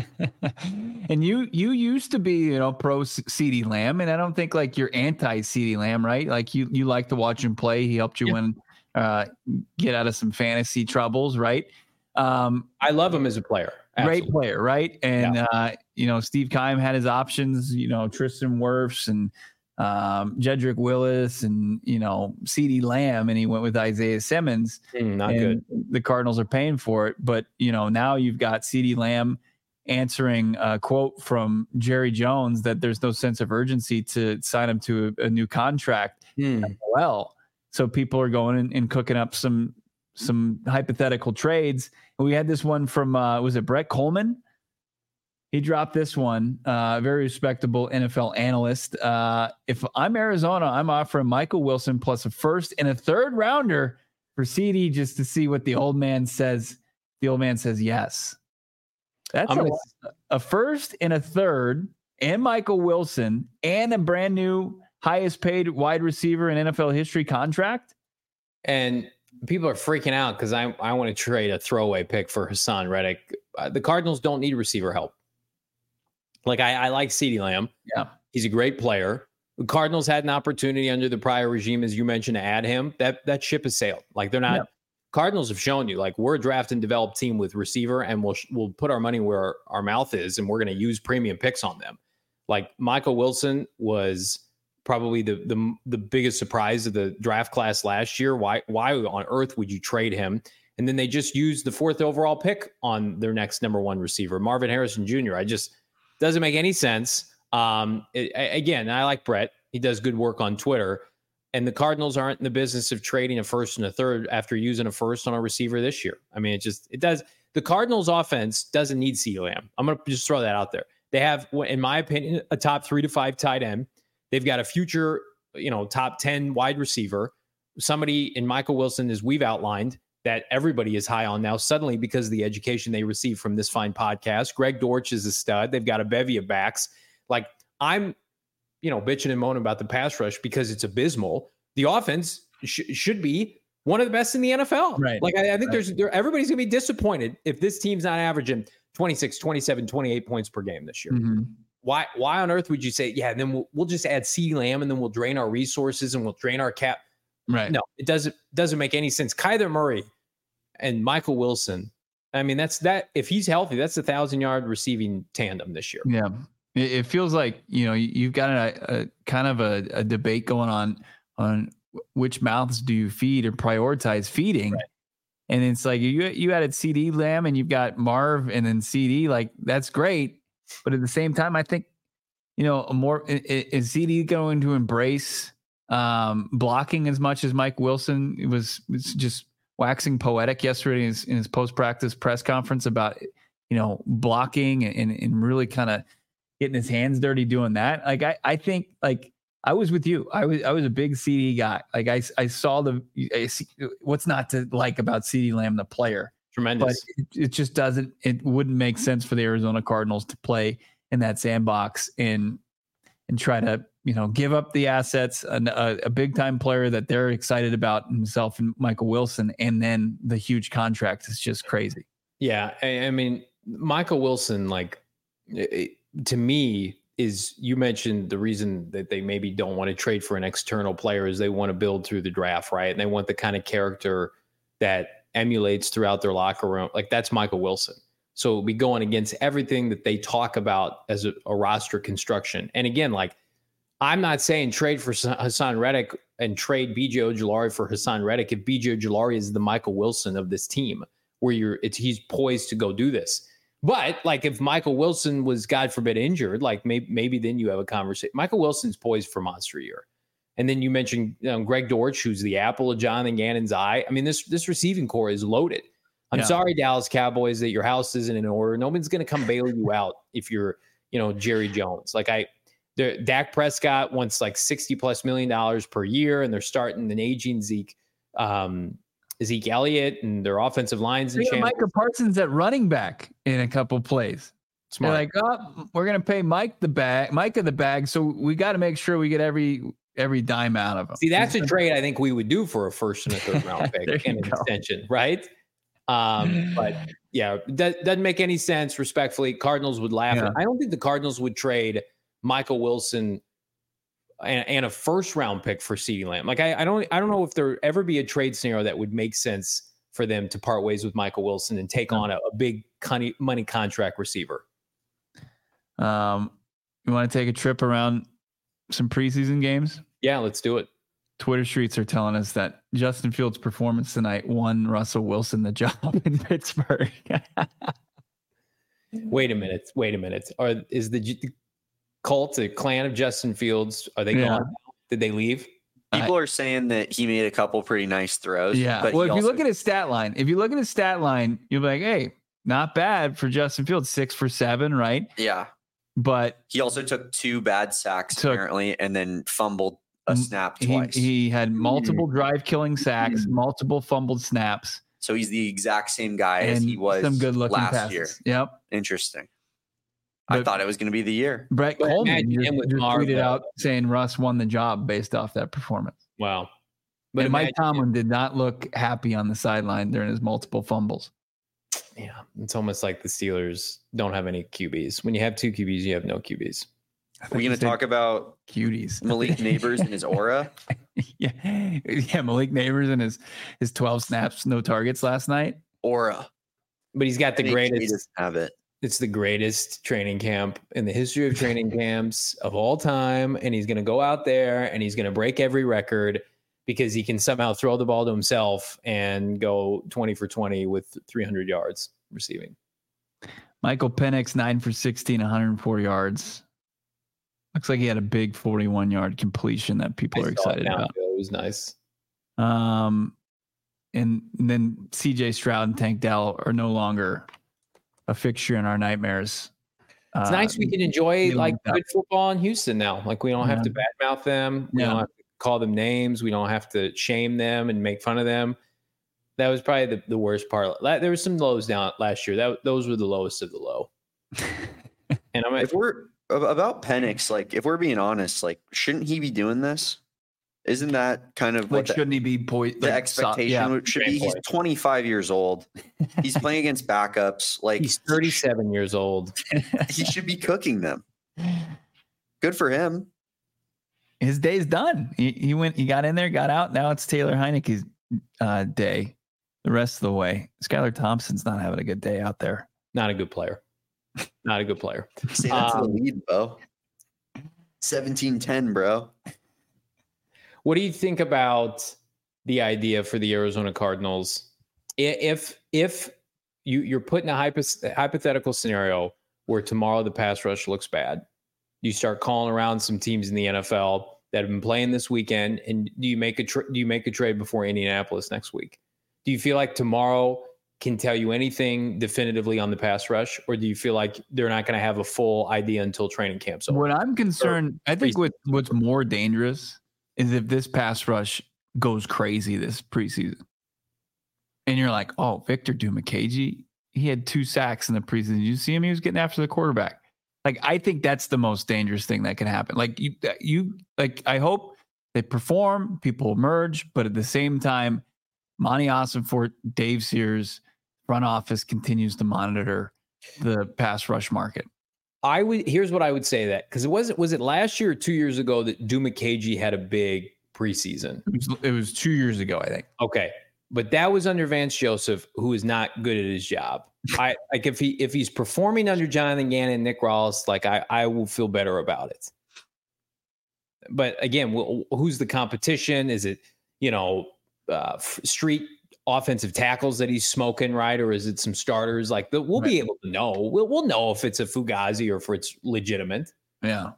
And you you used to be, you know, pro CeeDee Lamb, and I don't think like you're anti CeeDee Lamb, right? Like you you like to watch him play. He helped you Yeah. win, uh, get out of some fantasy troubles, right? Um, I love him as a player. great Absolutely. player, right? And uh, you know, Steve Keim had his options. You know, Tristan Wirfs and um, Jedrick Willis, and you know, CeeDee Lamb, and he went with Isaiah Simmons. Mm, not and good. The Cardinals are paying for it, but you know, now you've got CeeDee Lamb answering a quote from Jerry Jones that there's no sense of urgency to sign him to a, a new contract. Mm. Well, so people are going and, and cooking up some some hypothetical trades. And we had this one from uh, was it Brett Coleman? He dropped this one. Uh, very respectable N F L analyst. Uh, if I'm Arizona, I'm offering Michael Wilson plus a first and a third rounder for CeeDee just to see what the old man says. The old man says yes. That's I'm a, gonna, a first and a third, and Michael Wilson, and a brand new highest paid wide receiver in N F L history contract. and people are freaking out because I I want to trade a throwaway pick for Hassan Reddick. Uh, the Cardinals don't need receiver help. Like I, I like CeeDee Lamb. Yeah, he's a great player. The Cardinals had an opportunity under the prior regime, as you mentioned, to add him. That that ship has sailed. Like they're not. Yeah. Cardinals have shown you, like we're a draft and develop team with receiver, and we'll we'll put our money where our, our mouth is, and we're going to use premium picks on them. Like Michael Wilson was probably the the the biggest surprise of the draft class last year. Why why on earth would you trade him? And then they just used the fourth overall pick on their next number one receiver, Marvin Harrison Junior I just doesn't make any sense. Um, it, again, I like Brett. He does good work on Twitter. And the Cardinals aren't in the business of trading a first and a third after using a first on a receiver this year. I mean, it just, it does. The Cardinals offense doesn't need CeeDee Lamb. I'm going to just throw that out there. They have, in my opinion, a top three to five tight end. They've got a future, you know, top ten wide receiver. Somebody in Michael Wilson, as we've outlined, that everybody is high on now, suddenly because of the education they received from this fine podcast. Greg Dortch is a stud. They've got a bevy of backs. Like, I'm, you know, bitching and moaning about the pass rush because it's abysmal. The offense sh- should be one of the best in the N F L. Right. Like, I, I think right. there's there, everybody's going to be disappointed if this team's not averaging twenty-six, twenty-seven, twenty-eight points per game this year. Mm-hmm. Why Why on earth would you say, yeah, and then we'll, we'll just add CeeDee Lamb and then we'll drain our resources and we'll drain our cap? Right. No, it doesn't doesn't make any sense. Kyler Murray and Michael Wilson, I mean, that's that. If he's healthy, that's a thousand yard receiving tandem this year. Yeah. It, it feels like, you know, you've got a, a kind of a, a debate going on on which mouths do you feed or prioritize feeding. Right. And it's like you you added CeeDee Lamb and you've got Marv and then C D, like that's great. But at the same time, I think, you know, a more is C D going to embrace um, blocking as much as Mike Wilson was, was just waxing poetic yesterday in his, in his post-practice press conference about, you know, blocking and, and really kind of getting his hands dirty doing that. Like, I, I think like I was with you. I was, I was a big C D guy. Like I, I saw the, I see, what's not to like about CeeDee Lamb, the player. Tremendous. But it, it just doesn't, it wouldn't make sense for the Arizona Cardinals to play in that sandbox and, and try to, you know, give up the assets, a, a big time player that they're excited about himself and Michael Wilson. And then the huge contract is just crazy. Yeah. I, I mean, Michael Wilson, like it, to me is, you mentioned the reason that they maybe don't want to trade for an external player is they want to build through the draft. Right. And they want the kind of character that emulates throughout their locker room. Like that's Michael Wilson. So it'll be going against everything that they talk about as a, a roster construction. And again, like, I'm not saying trade for Hassan Reddick and trade B J Ojulari for Hassan Reddick if B J Ojulari is the Michael Wilson of this team, where you're it's he's poised to go do this. But like if Michael Wilson was, God forbid, injured, like maybe maybe then you have a conversation. Michael Wilson's poised for monster year. And then you mentioned you know, Greg Dortch, who's the apple of Jonathan Gannon's eye. I mean, this this receiving core is loaded. I'm yeah. sorry, Dallas Cowboys, that your house isn't in order. Nobody's going to come bail you out if you're, you know, Jerry Jones. Like I. The Dak Prescott wants like sixty plus million dollars per year, and they're starting an aging Zeke, um, Zeke Elliott, and their offensive lines. And Micah Parsons at running back in a couple plays. Smart. They're like, oh, we're gonna pay Mike the bag, Micah the bag, so we got to make sure we get every every dime out of him. See, that's a trade I think we would do for a first and a third round pick and an go. extension, right? Um, but yeah, that doesn't make any sense. Respectfully, Cardinals would laugh. Yeah. I don't think the Cardinals would trade Michael Wilson and, and a first round pick for CeeDee Lamb. Like I, I don't, I don't know if there ever be a trade scenario that would make sense for them to part ways with Michael Wilson and take on a, a big money contract receiver. Um, you want to take a trip around some preseason games? Yeah, let's do it. Twitter streets are telling us that Justin Fields' performance tonight won Russell Wilson the job in Pittsburgh. Wait a minute. Wait a minute. Are is the cult, the clan of Justin Fields, are they yeah. gone? Did they leave? People are saying that he made a couple pretty nice throws. Yeah. But well, if also- you look at his stat line, if you look at his stat line, you'll be like, hey, not bad for Justin Fields, six for seven, right? Yeah. But he also took two bad sacks took, apparently, and then fumbled a snap he, twice. He had multiple drive killing sacks, multiple fumbled snaps. So he's the exact same guy and as he was some good looking last passes. year. Yep. Interesting. But I thought it was going to be the year. Brett Coleman just, with just Marv, tweeted out saying Russ won the job based off that performance. Wow. But and Mike Tomlin did not look happy on the sideline during his multiple fumbles. Yeah, it's almost like the Steelers don't have any Q Bs. When you have two Q Bs, you have no Q Bs. We're going to talk about cuties, Malik Neighbors and his aura. yeah, yeah, Malik Neighbors and his his twelve snaps, no targets last night. Aura, but he's got the greatest. Have it. It's the greatest training camp in the history of training camps of all time, and he's going to go out there and he's going to break every record because he can somehow throw the ball to himself and go twenty for twenty with three hundred yards receiving. Michael Penix, nine for sixteen, one hundred four yards. Looks like he had a big forty-one yard completion that people I are excited about. It was nice. Um, and then C J Stroud and Tank Dell are no longer a fixture in our nightmares. It's uh, nice we can enjoy like good football in Houston now. Like we don't have yeah. to badmouth them. We yeah. don't have to call them names. We don't have to shame them and make fun of them. That was probably the, the worst part. There was some lows down last year. That those were the lowest of the low. And I'm if we're about Penix, like if we're being honest, like shouldn't he be doing this? Isn't that kind of like what the, shouldn't he be po- the like, expectation yeah. should be? He's twenty-five years old. He's playing against backups. Like he's thirty-seven years old. He should be cooking them. Good for him. His day's done. He, he went. He got in there, got out. Now it's Taylor Heineke's uh, day. The rest of the way, Skylar Thompson's not having a good day out there. Not a good player. Not a good player. See, that's um, the lead, bro. seventeen ten, bro. What do you think about the idea for the Arizona Cardinals? If if you, you're put in a hypo- hypothetical scenario where tomorrow the pass rush looks bad, you start calling around some teams in the N F L that have been playing this weekend, and do you make a tra- do you make a trade before Indianapolis next week? Do you feel like tomorrow can tell you anything definitively on the pass rush, or do you feel like they're not going to have a full idea until training camp's over? What I'm concerned, or I think what, what's more dangerous is if this pass rush goes crazy this preseason. And you're like, oh, Victor Dimukeje, he had two sacks in the preseason. Did you see him? He was getting after the quarterback. Like, I think that's the most dangerous thing that can happen. Like, you, you, like, I hope they perform, people emerge, but at the same time, Monty Ossenfort, Dave Sears, front office continues to monitor the pass rush market. I would. Here's what I would say that because it wasn't. Was it last year or two years ago that Dimukeje had a big preseason? It was, it was two years ago, I think. Okay, but that was under Vance Joseph, who is not good at his job. I like if he if he's performing under Jonathan Gannon and Nick Rawls, like I I will feel better about it. But again, who's the competition? Is it you know uh, street offensive tackles that he's smoking, right? Or is it some starters? Like the, we'll right. be able to know. We'll we'll know if it's a Fugazi or if it's legitimate. Yeah.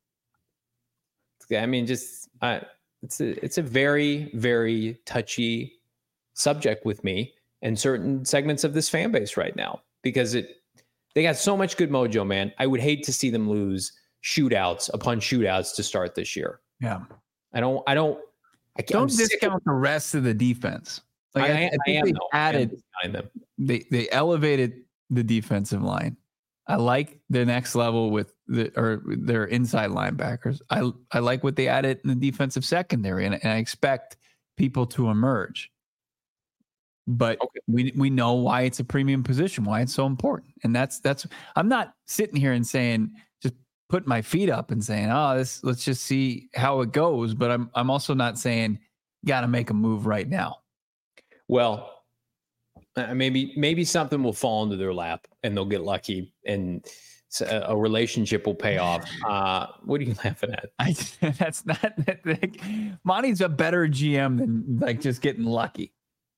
I mean, just uh, it's a it's a very very touchy subject with me and certain segments of this fan base right now because it they got so much good mojo, man. I would hate to see them lose shootouts upon shootouts to start this year. Yeah. I don't. I don't. I can't, don't discount the rest of the defense. Like I, I, I think I am, they though. added, them. they they elevated the defensive line. I like the next level with the or their inside linebackers. I I like what they added in the defensive secondary, and, and I expect people to emerge. But okay. we we know why it's a premium position, why it's so important, and that's that's. I'm not sitting here and saying just putting my feet up and saying, oh, this let's just see how it goes. But I'm I'm also not saying got to make a move right now. Well, uh, maybe maybe something will fall into their lap and they'll get lucky and a, a relationship will pay off. Uh, what are you laughing at? I, that's not that like, Monty's a better G M than like just getting lucky.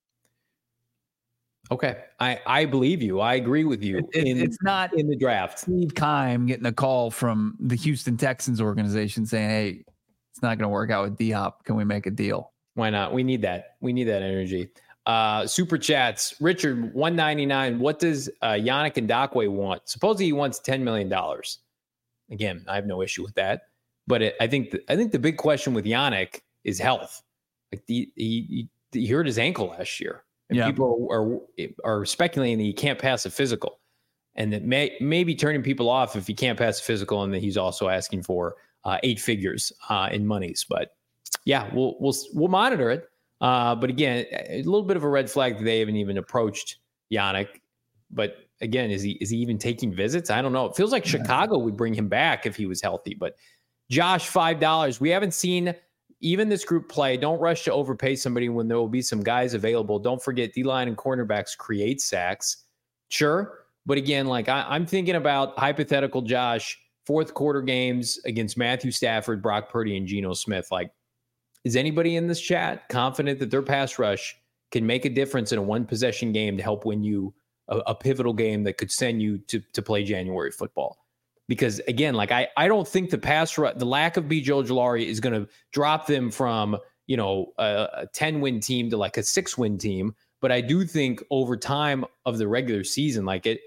Okay, I, I believe you. I agree with you. It, in, it's not in the draft. Steve Keim getting a call from the Houston Texans organization saying, "Hey, it's not going to work out with D-Hop. Can we make a deal?" Why not? We need that. We need that energy. Uh, super chats. Richard, one ninety-nine. What does uh, Yannick Ngakoue want? Supposedly he wants ten million dollars. Again, I have no issue with that. But it, I think the, I think the big question with Yannick is health. Like the, he, he hurt his ankle last year, and yeah. people are, are are speculating that he can't pass a physical, and that may maybe turning people off if he can't pass a physical, and that he's also asking for uh, eight figures uh, in monies. But yeah, we'll we'll we'll monitor it. Uh, but again, a little bit of a red flag that they haven't even approached Yannick. But again, is he is he even taking visits? I don't know. It feels like yeah. Chicago would bring him back if he was healthy. But Josh, five dollars. We haven't seen even this group play. Don't rush to overpay somebody when there will be some guys available. Don't forget D-line and cornerbacks create sacks. Sure. But again, like I, I'm thinking about hypothetical Josh, fourth quarter games against Matthew Stafford, Brock Purdy, and Geno Smith. Like, is anybody in this chat confident that their pass rush can make a difference in a one possession game to help win you a, a pivotal game that could send you to, to play January football? Because again, like I, I don't think the pass rush, the lack of B J Ojulari is going to drop them from, you know, a, a ten win team to like a six win team. But I do think over time of the regular season, like it,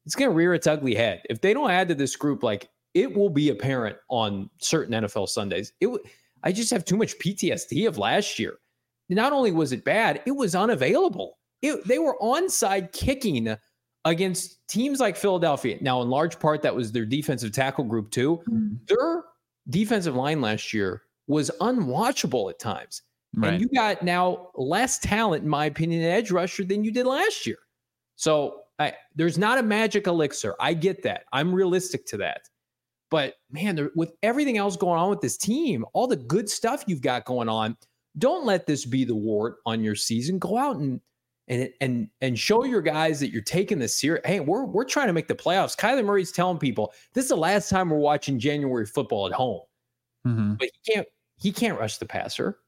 it's going to rear its ugly head. If they don't add to this group, like it will be apparent on certain N F L Sundays. It w- I just have too much P T S D of last year. Not only was it bad, it was unavailable. It, they were onside kicking against teams like Philadelphia. Now, in large part, that was their defensive tackle group too. Mm. Their defensive line last year was unwatchable at times. Right. And you got now less talent, in my opinion, at edge rusher than you did last year. So I, there's not a magic elixir. I get that. I'm realistic to that. But man, there, with everything else going on with this team, all the good stuff you've got going on, don't let this be the wart on your season. Go out and and and and show your guys that you're taking this serious. Hey, we're we're trying to make the playoffs. Kyler Murray's telling people this is the last time we're watching January football at home. Mm-hmm. But he can't he can't rush the passer.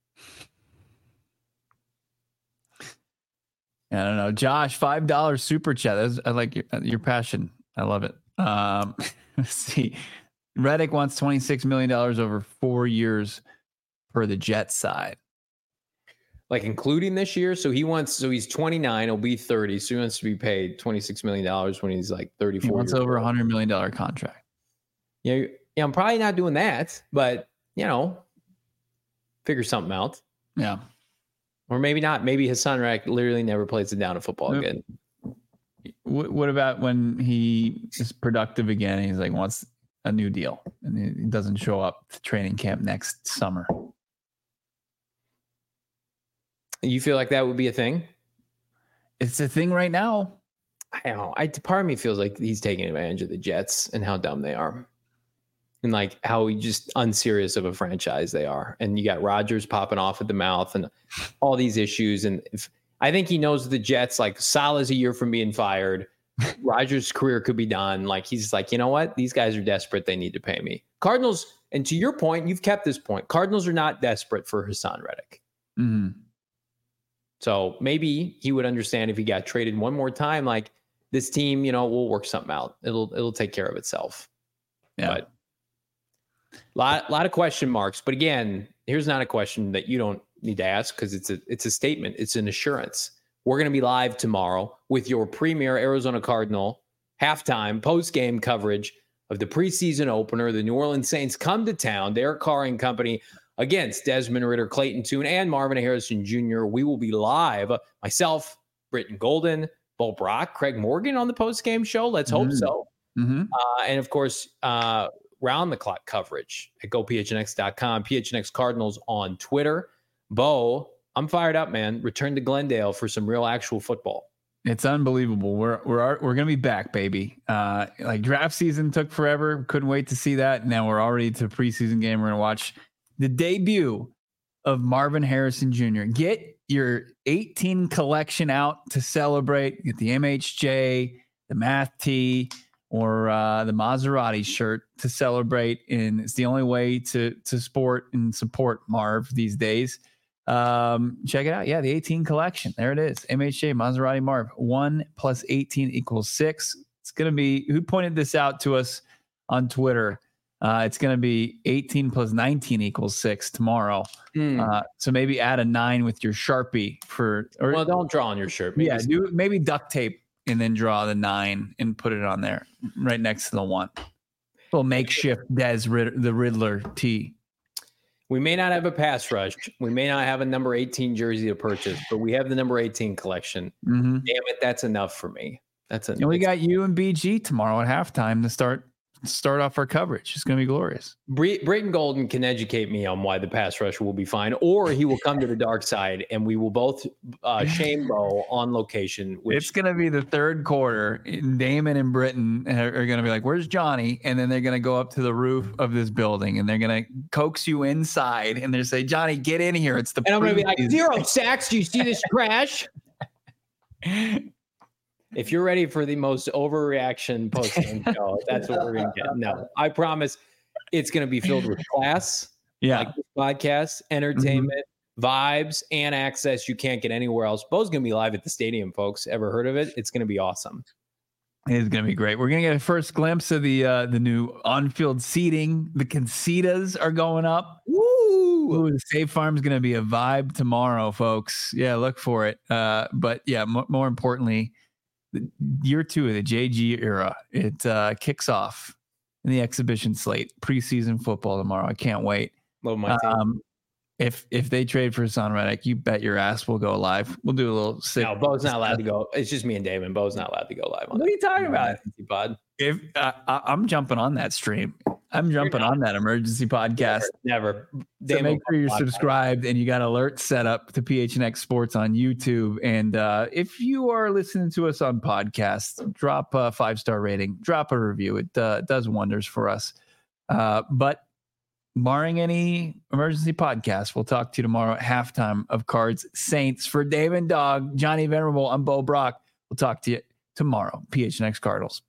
I don't know, Josh. Five dollars super chat. That's, I like your, your passion. I love it. Um, let's see. Reddick wants twenty-six million dollars over four years per the Jets side. Like including this year. So he wants, so he's twenty-nine, he'll be thirty. So he wants to be paid twenty-six million dollars when he's like thirty-four. He wants over a hundred million dollar contract. Yeah. Yeah. I'm probably not doing that, but you know, figure something out. Yeah. Or maybe not. Maybe Hassan Reddick literally never plays it down to football nope. again. What about when he is productive again? And he's like, wants a new deal and he doesn't show up to training camp next summer. You feel like that would be a thing? It's a thing right now. I don't know. I, part of me feels like he's taking advantage of the Jets and how dumb they are. And like how just unserious of a franchise they are. And you got Rodgers popping off at the mouth and all these issues. And if, I think he knows the Jets, like Salah's a year from being fired. Rodgers' career could be done. Like he's like, you know what? These guys are desperate. They need to pay me. Cardinals, and to your point, you've kept this point. Cardinals are not desperate for Hassan Reddick. Mm-hmm. So maybe he would understand if he got traded one more time. Like this team, you know, we'll work something out. It'll it'll take care of itself. Yeah. But lot lot of question marks. But again, here's not a question that you don't need to ask because it's a it's a statement. It's an assurance. We're going to be live tomorrow with your premier Arizona Cardinal halftime post-game coverage of the preseason opener. The New Orleans Saints come to town. Derek Carr and company against Desmond Ridder, Clayton Tune, and Marvin Harrison Junior We will be live. Myself, Britton Golden, Bo Brock, Craig Morgan on the post-game show. Let's hope mm-hmm. so. Mm-hmm. Uh, and, of course, uh, round-the-clock coverage at go P H N X dot com, P H N X Cardinals on Twitter. Bo, I'm fired up, man. Return to Glendale for some real actual football. It's unbelievable. We're we're we're gonna be back, baby. Uh, like draft season took forever. Couldn't wait to see that. Now we're already to preseason game. We're gonna watch the debut of Marvin Harrison Junior Get your eighteen collection out to celebrate. Get the M H J, the Math Tee, or uh, the Maserati shirt to celebrate. And it's the only way to to sport and support Marv these days. Um, check it out. Yeah, the eighteen collection. There it is. M H J Maserati Marv. One plus eighteen equals six. It's going to be, who pointed this out to us on Twitter? Uh, it's going to be eighteen plus nineteen equals six tomorrow. Mm. Uh, so maybe add a nine with your Sharpie for, or well, don't draw on your shirt. Maybe yeah, do maybe duct tape and then draw the nine and put it on there right next to the one. Little makeshift Des Rid- the Riddler tee. We may not have a pass rush. We may not have a number eighteen jersey to purchase, but we have the number eighteen collection. Mm-hmm. Damn it, that's enough for me. That's enough. And we got you and B G tomorrow at halftime to start start off our coverage. It's going to be glorious. Bre- Brayton Golden can educate me on why the pass rush will be fine, or he will come to the dark side and we will both uh, shame Bo on location. Which... It's going to be the third quarter. Damon and Britton are, are going to be like, where's Johnny? And then they're going to go up to the roof of this building and they're going to coax you inside and they're say, Johnny, get in here. It's the And I'm going to be like, zero sacks. Do you see this crash? If you're ready for the most overreaction post-game show, that's what we're going to get. No, I promise it's going to be filled with class, yeah, like this podcast, entertainment, mm-hmm. vibes, and access you can't get anywhere else. Bo's going to be live at the stadium, folks. Ever heard of it? It's going to be awesome. It's going to be great. We're going to get a first glimpse of the uh, the new on-field seating. The Concedas are going up. Woo! Ooh, the State Farm is going to be a vibe tomorrow, folks. Yeah, look for it. Uh, but yeah, m- more importantly, year two of the J G era. It uh, kicks off in the exhibition slate, preseason football tomorrow. I can't wait. Love my team. Um, if if they trade for Hassan Reddick, you bet your ass we'll go live. We'll do a little sick. No, Bo's not allowed to go. It's just me and Damon. Bo's not allowed to go live on What are you talking about? Pod. If uh, I, I'm jumping on that stream, I'm jumping on that emergency podcast. Never. never. So make sure you're subscribed and you got alerts set up to P H N X Sports on YouTube. And uh, if you are listening to us on podcasts, drop a five star rating, drop a review. It uh, does wonders for us. Uh, but barring any emergency podcast, we'll talk to you tomorrow at halftime of Cards Saints. For Dave and Dog, Johnny Venerable, I'm Bo Brock. We'll talk to you tomorrow. P H N X Cardinals.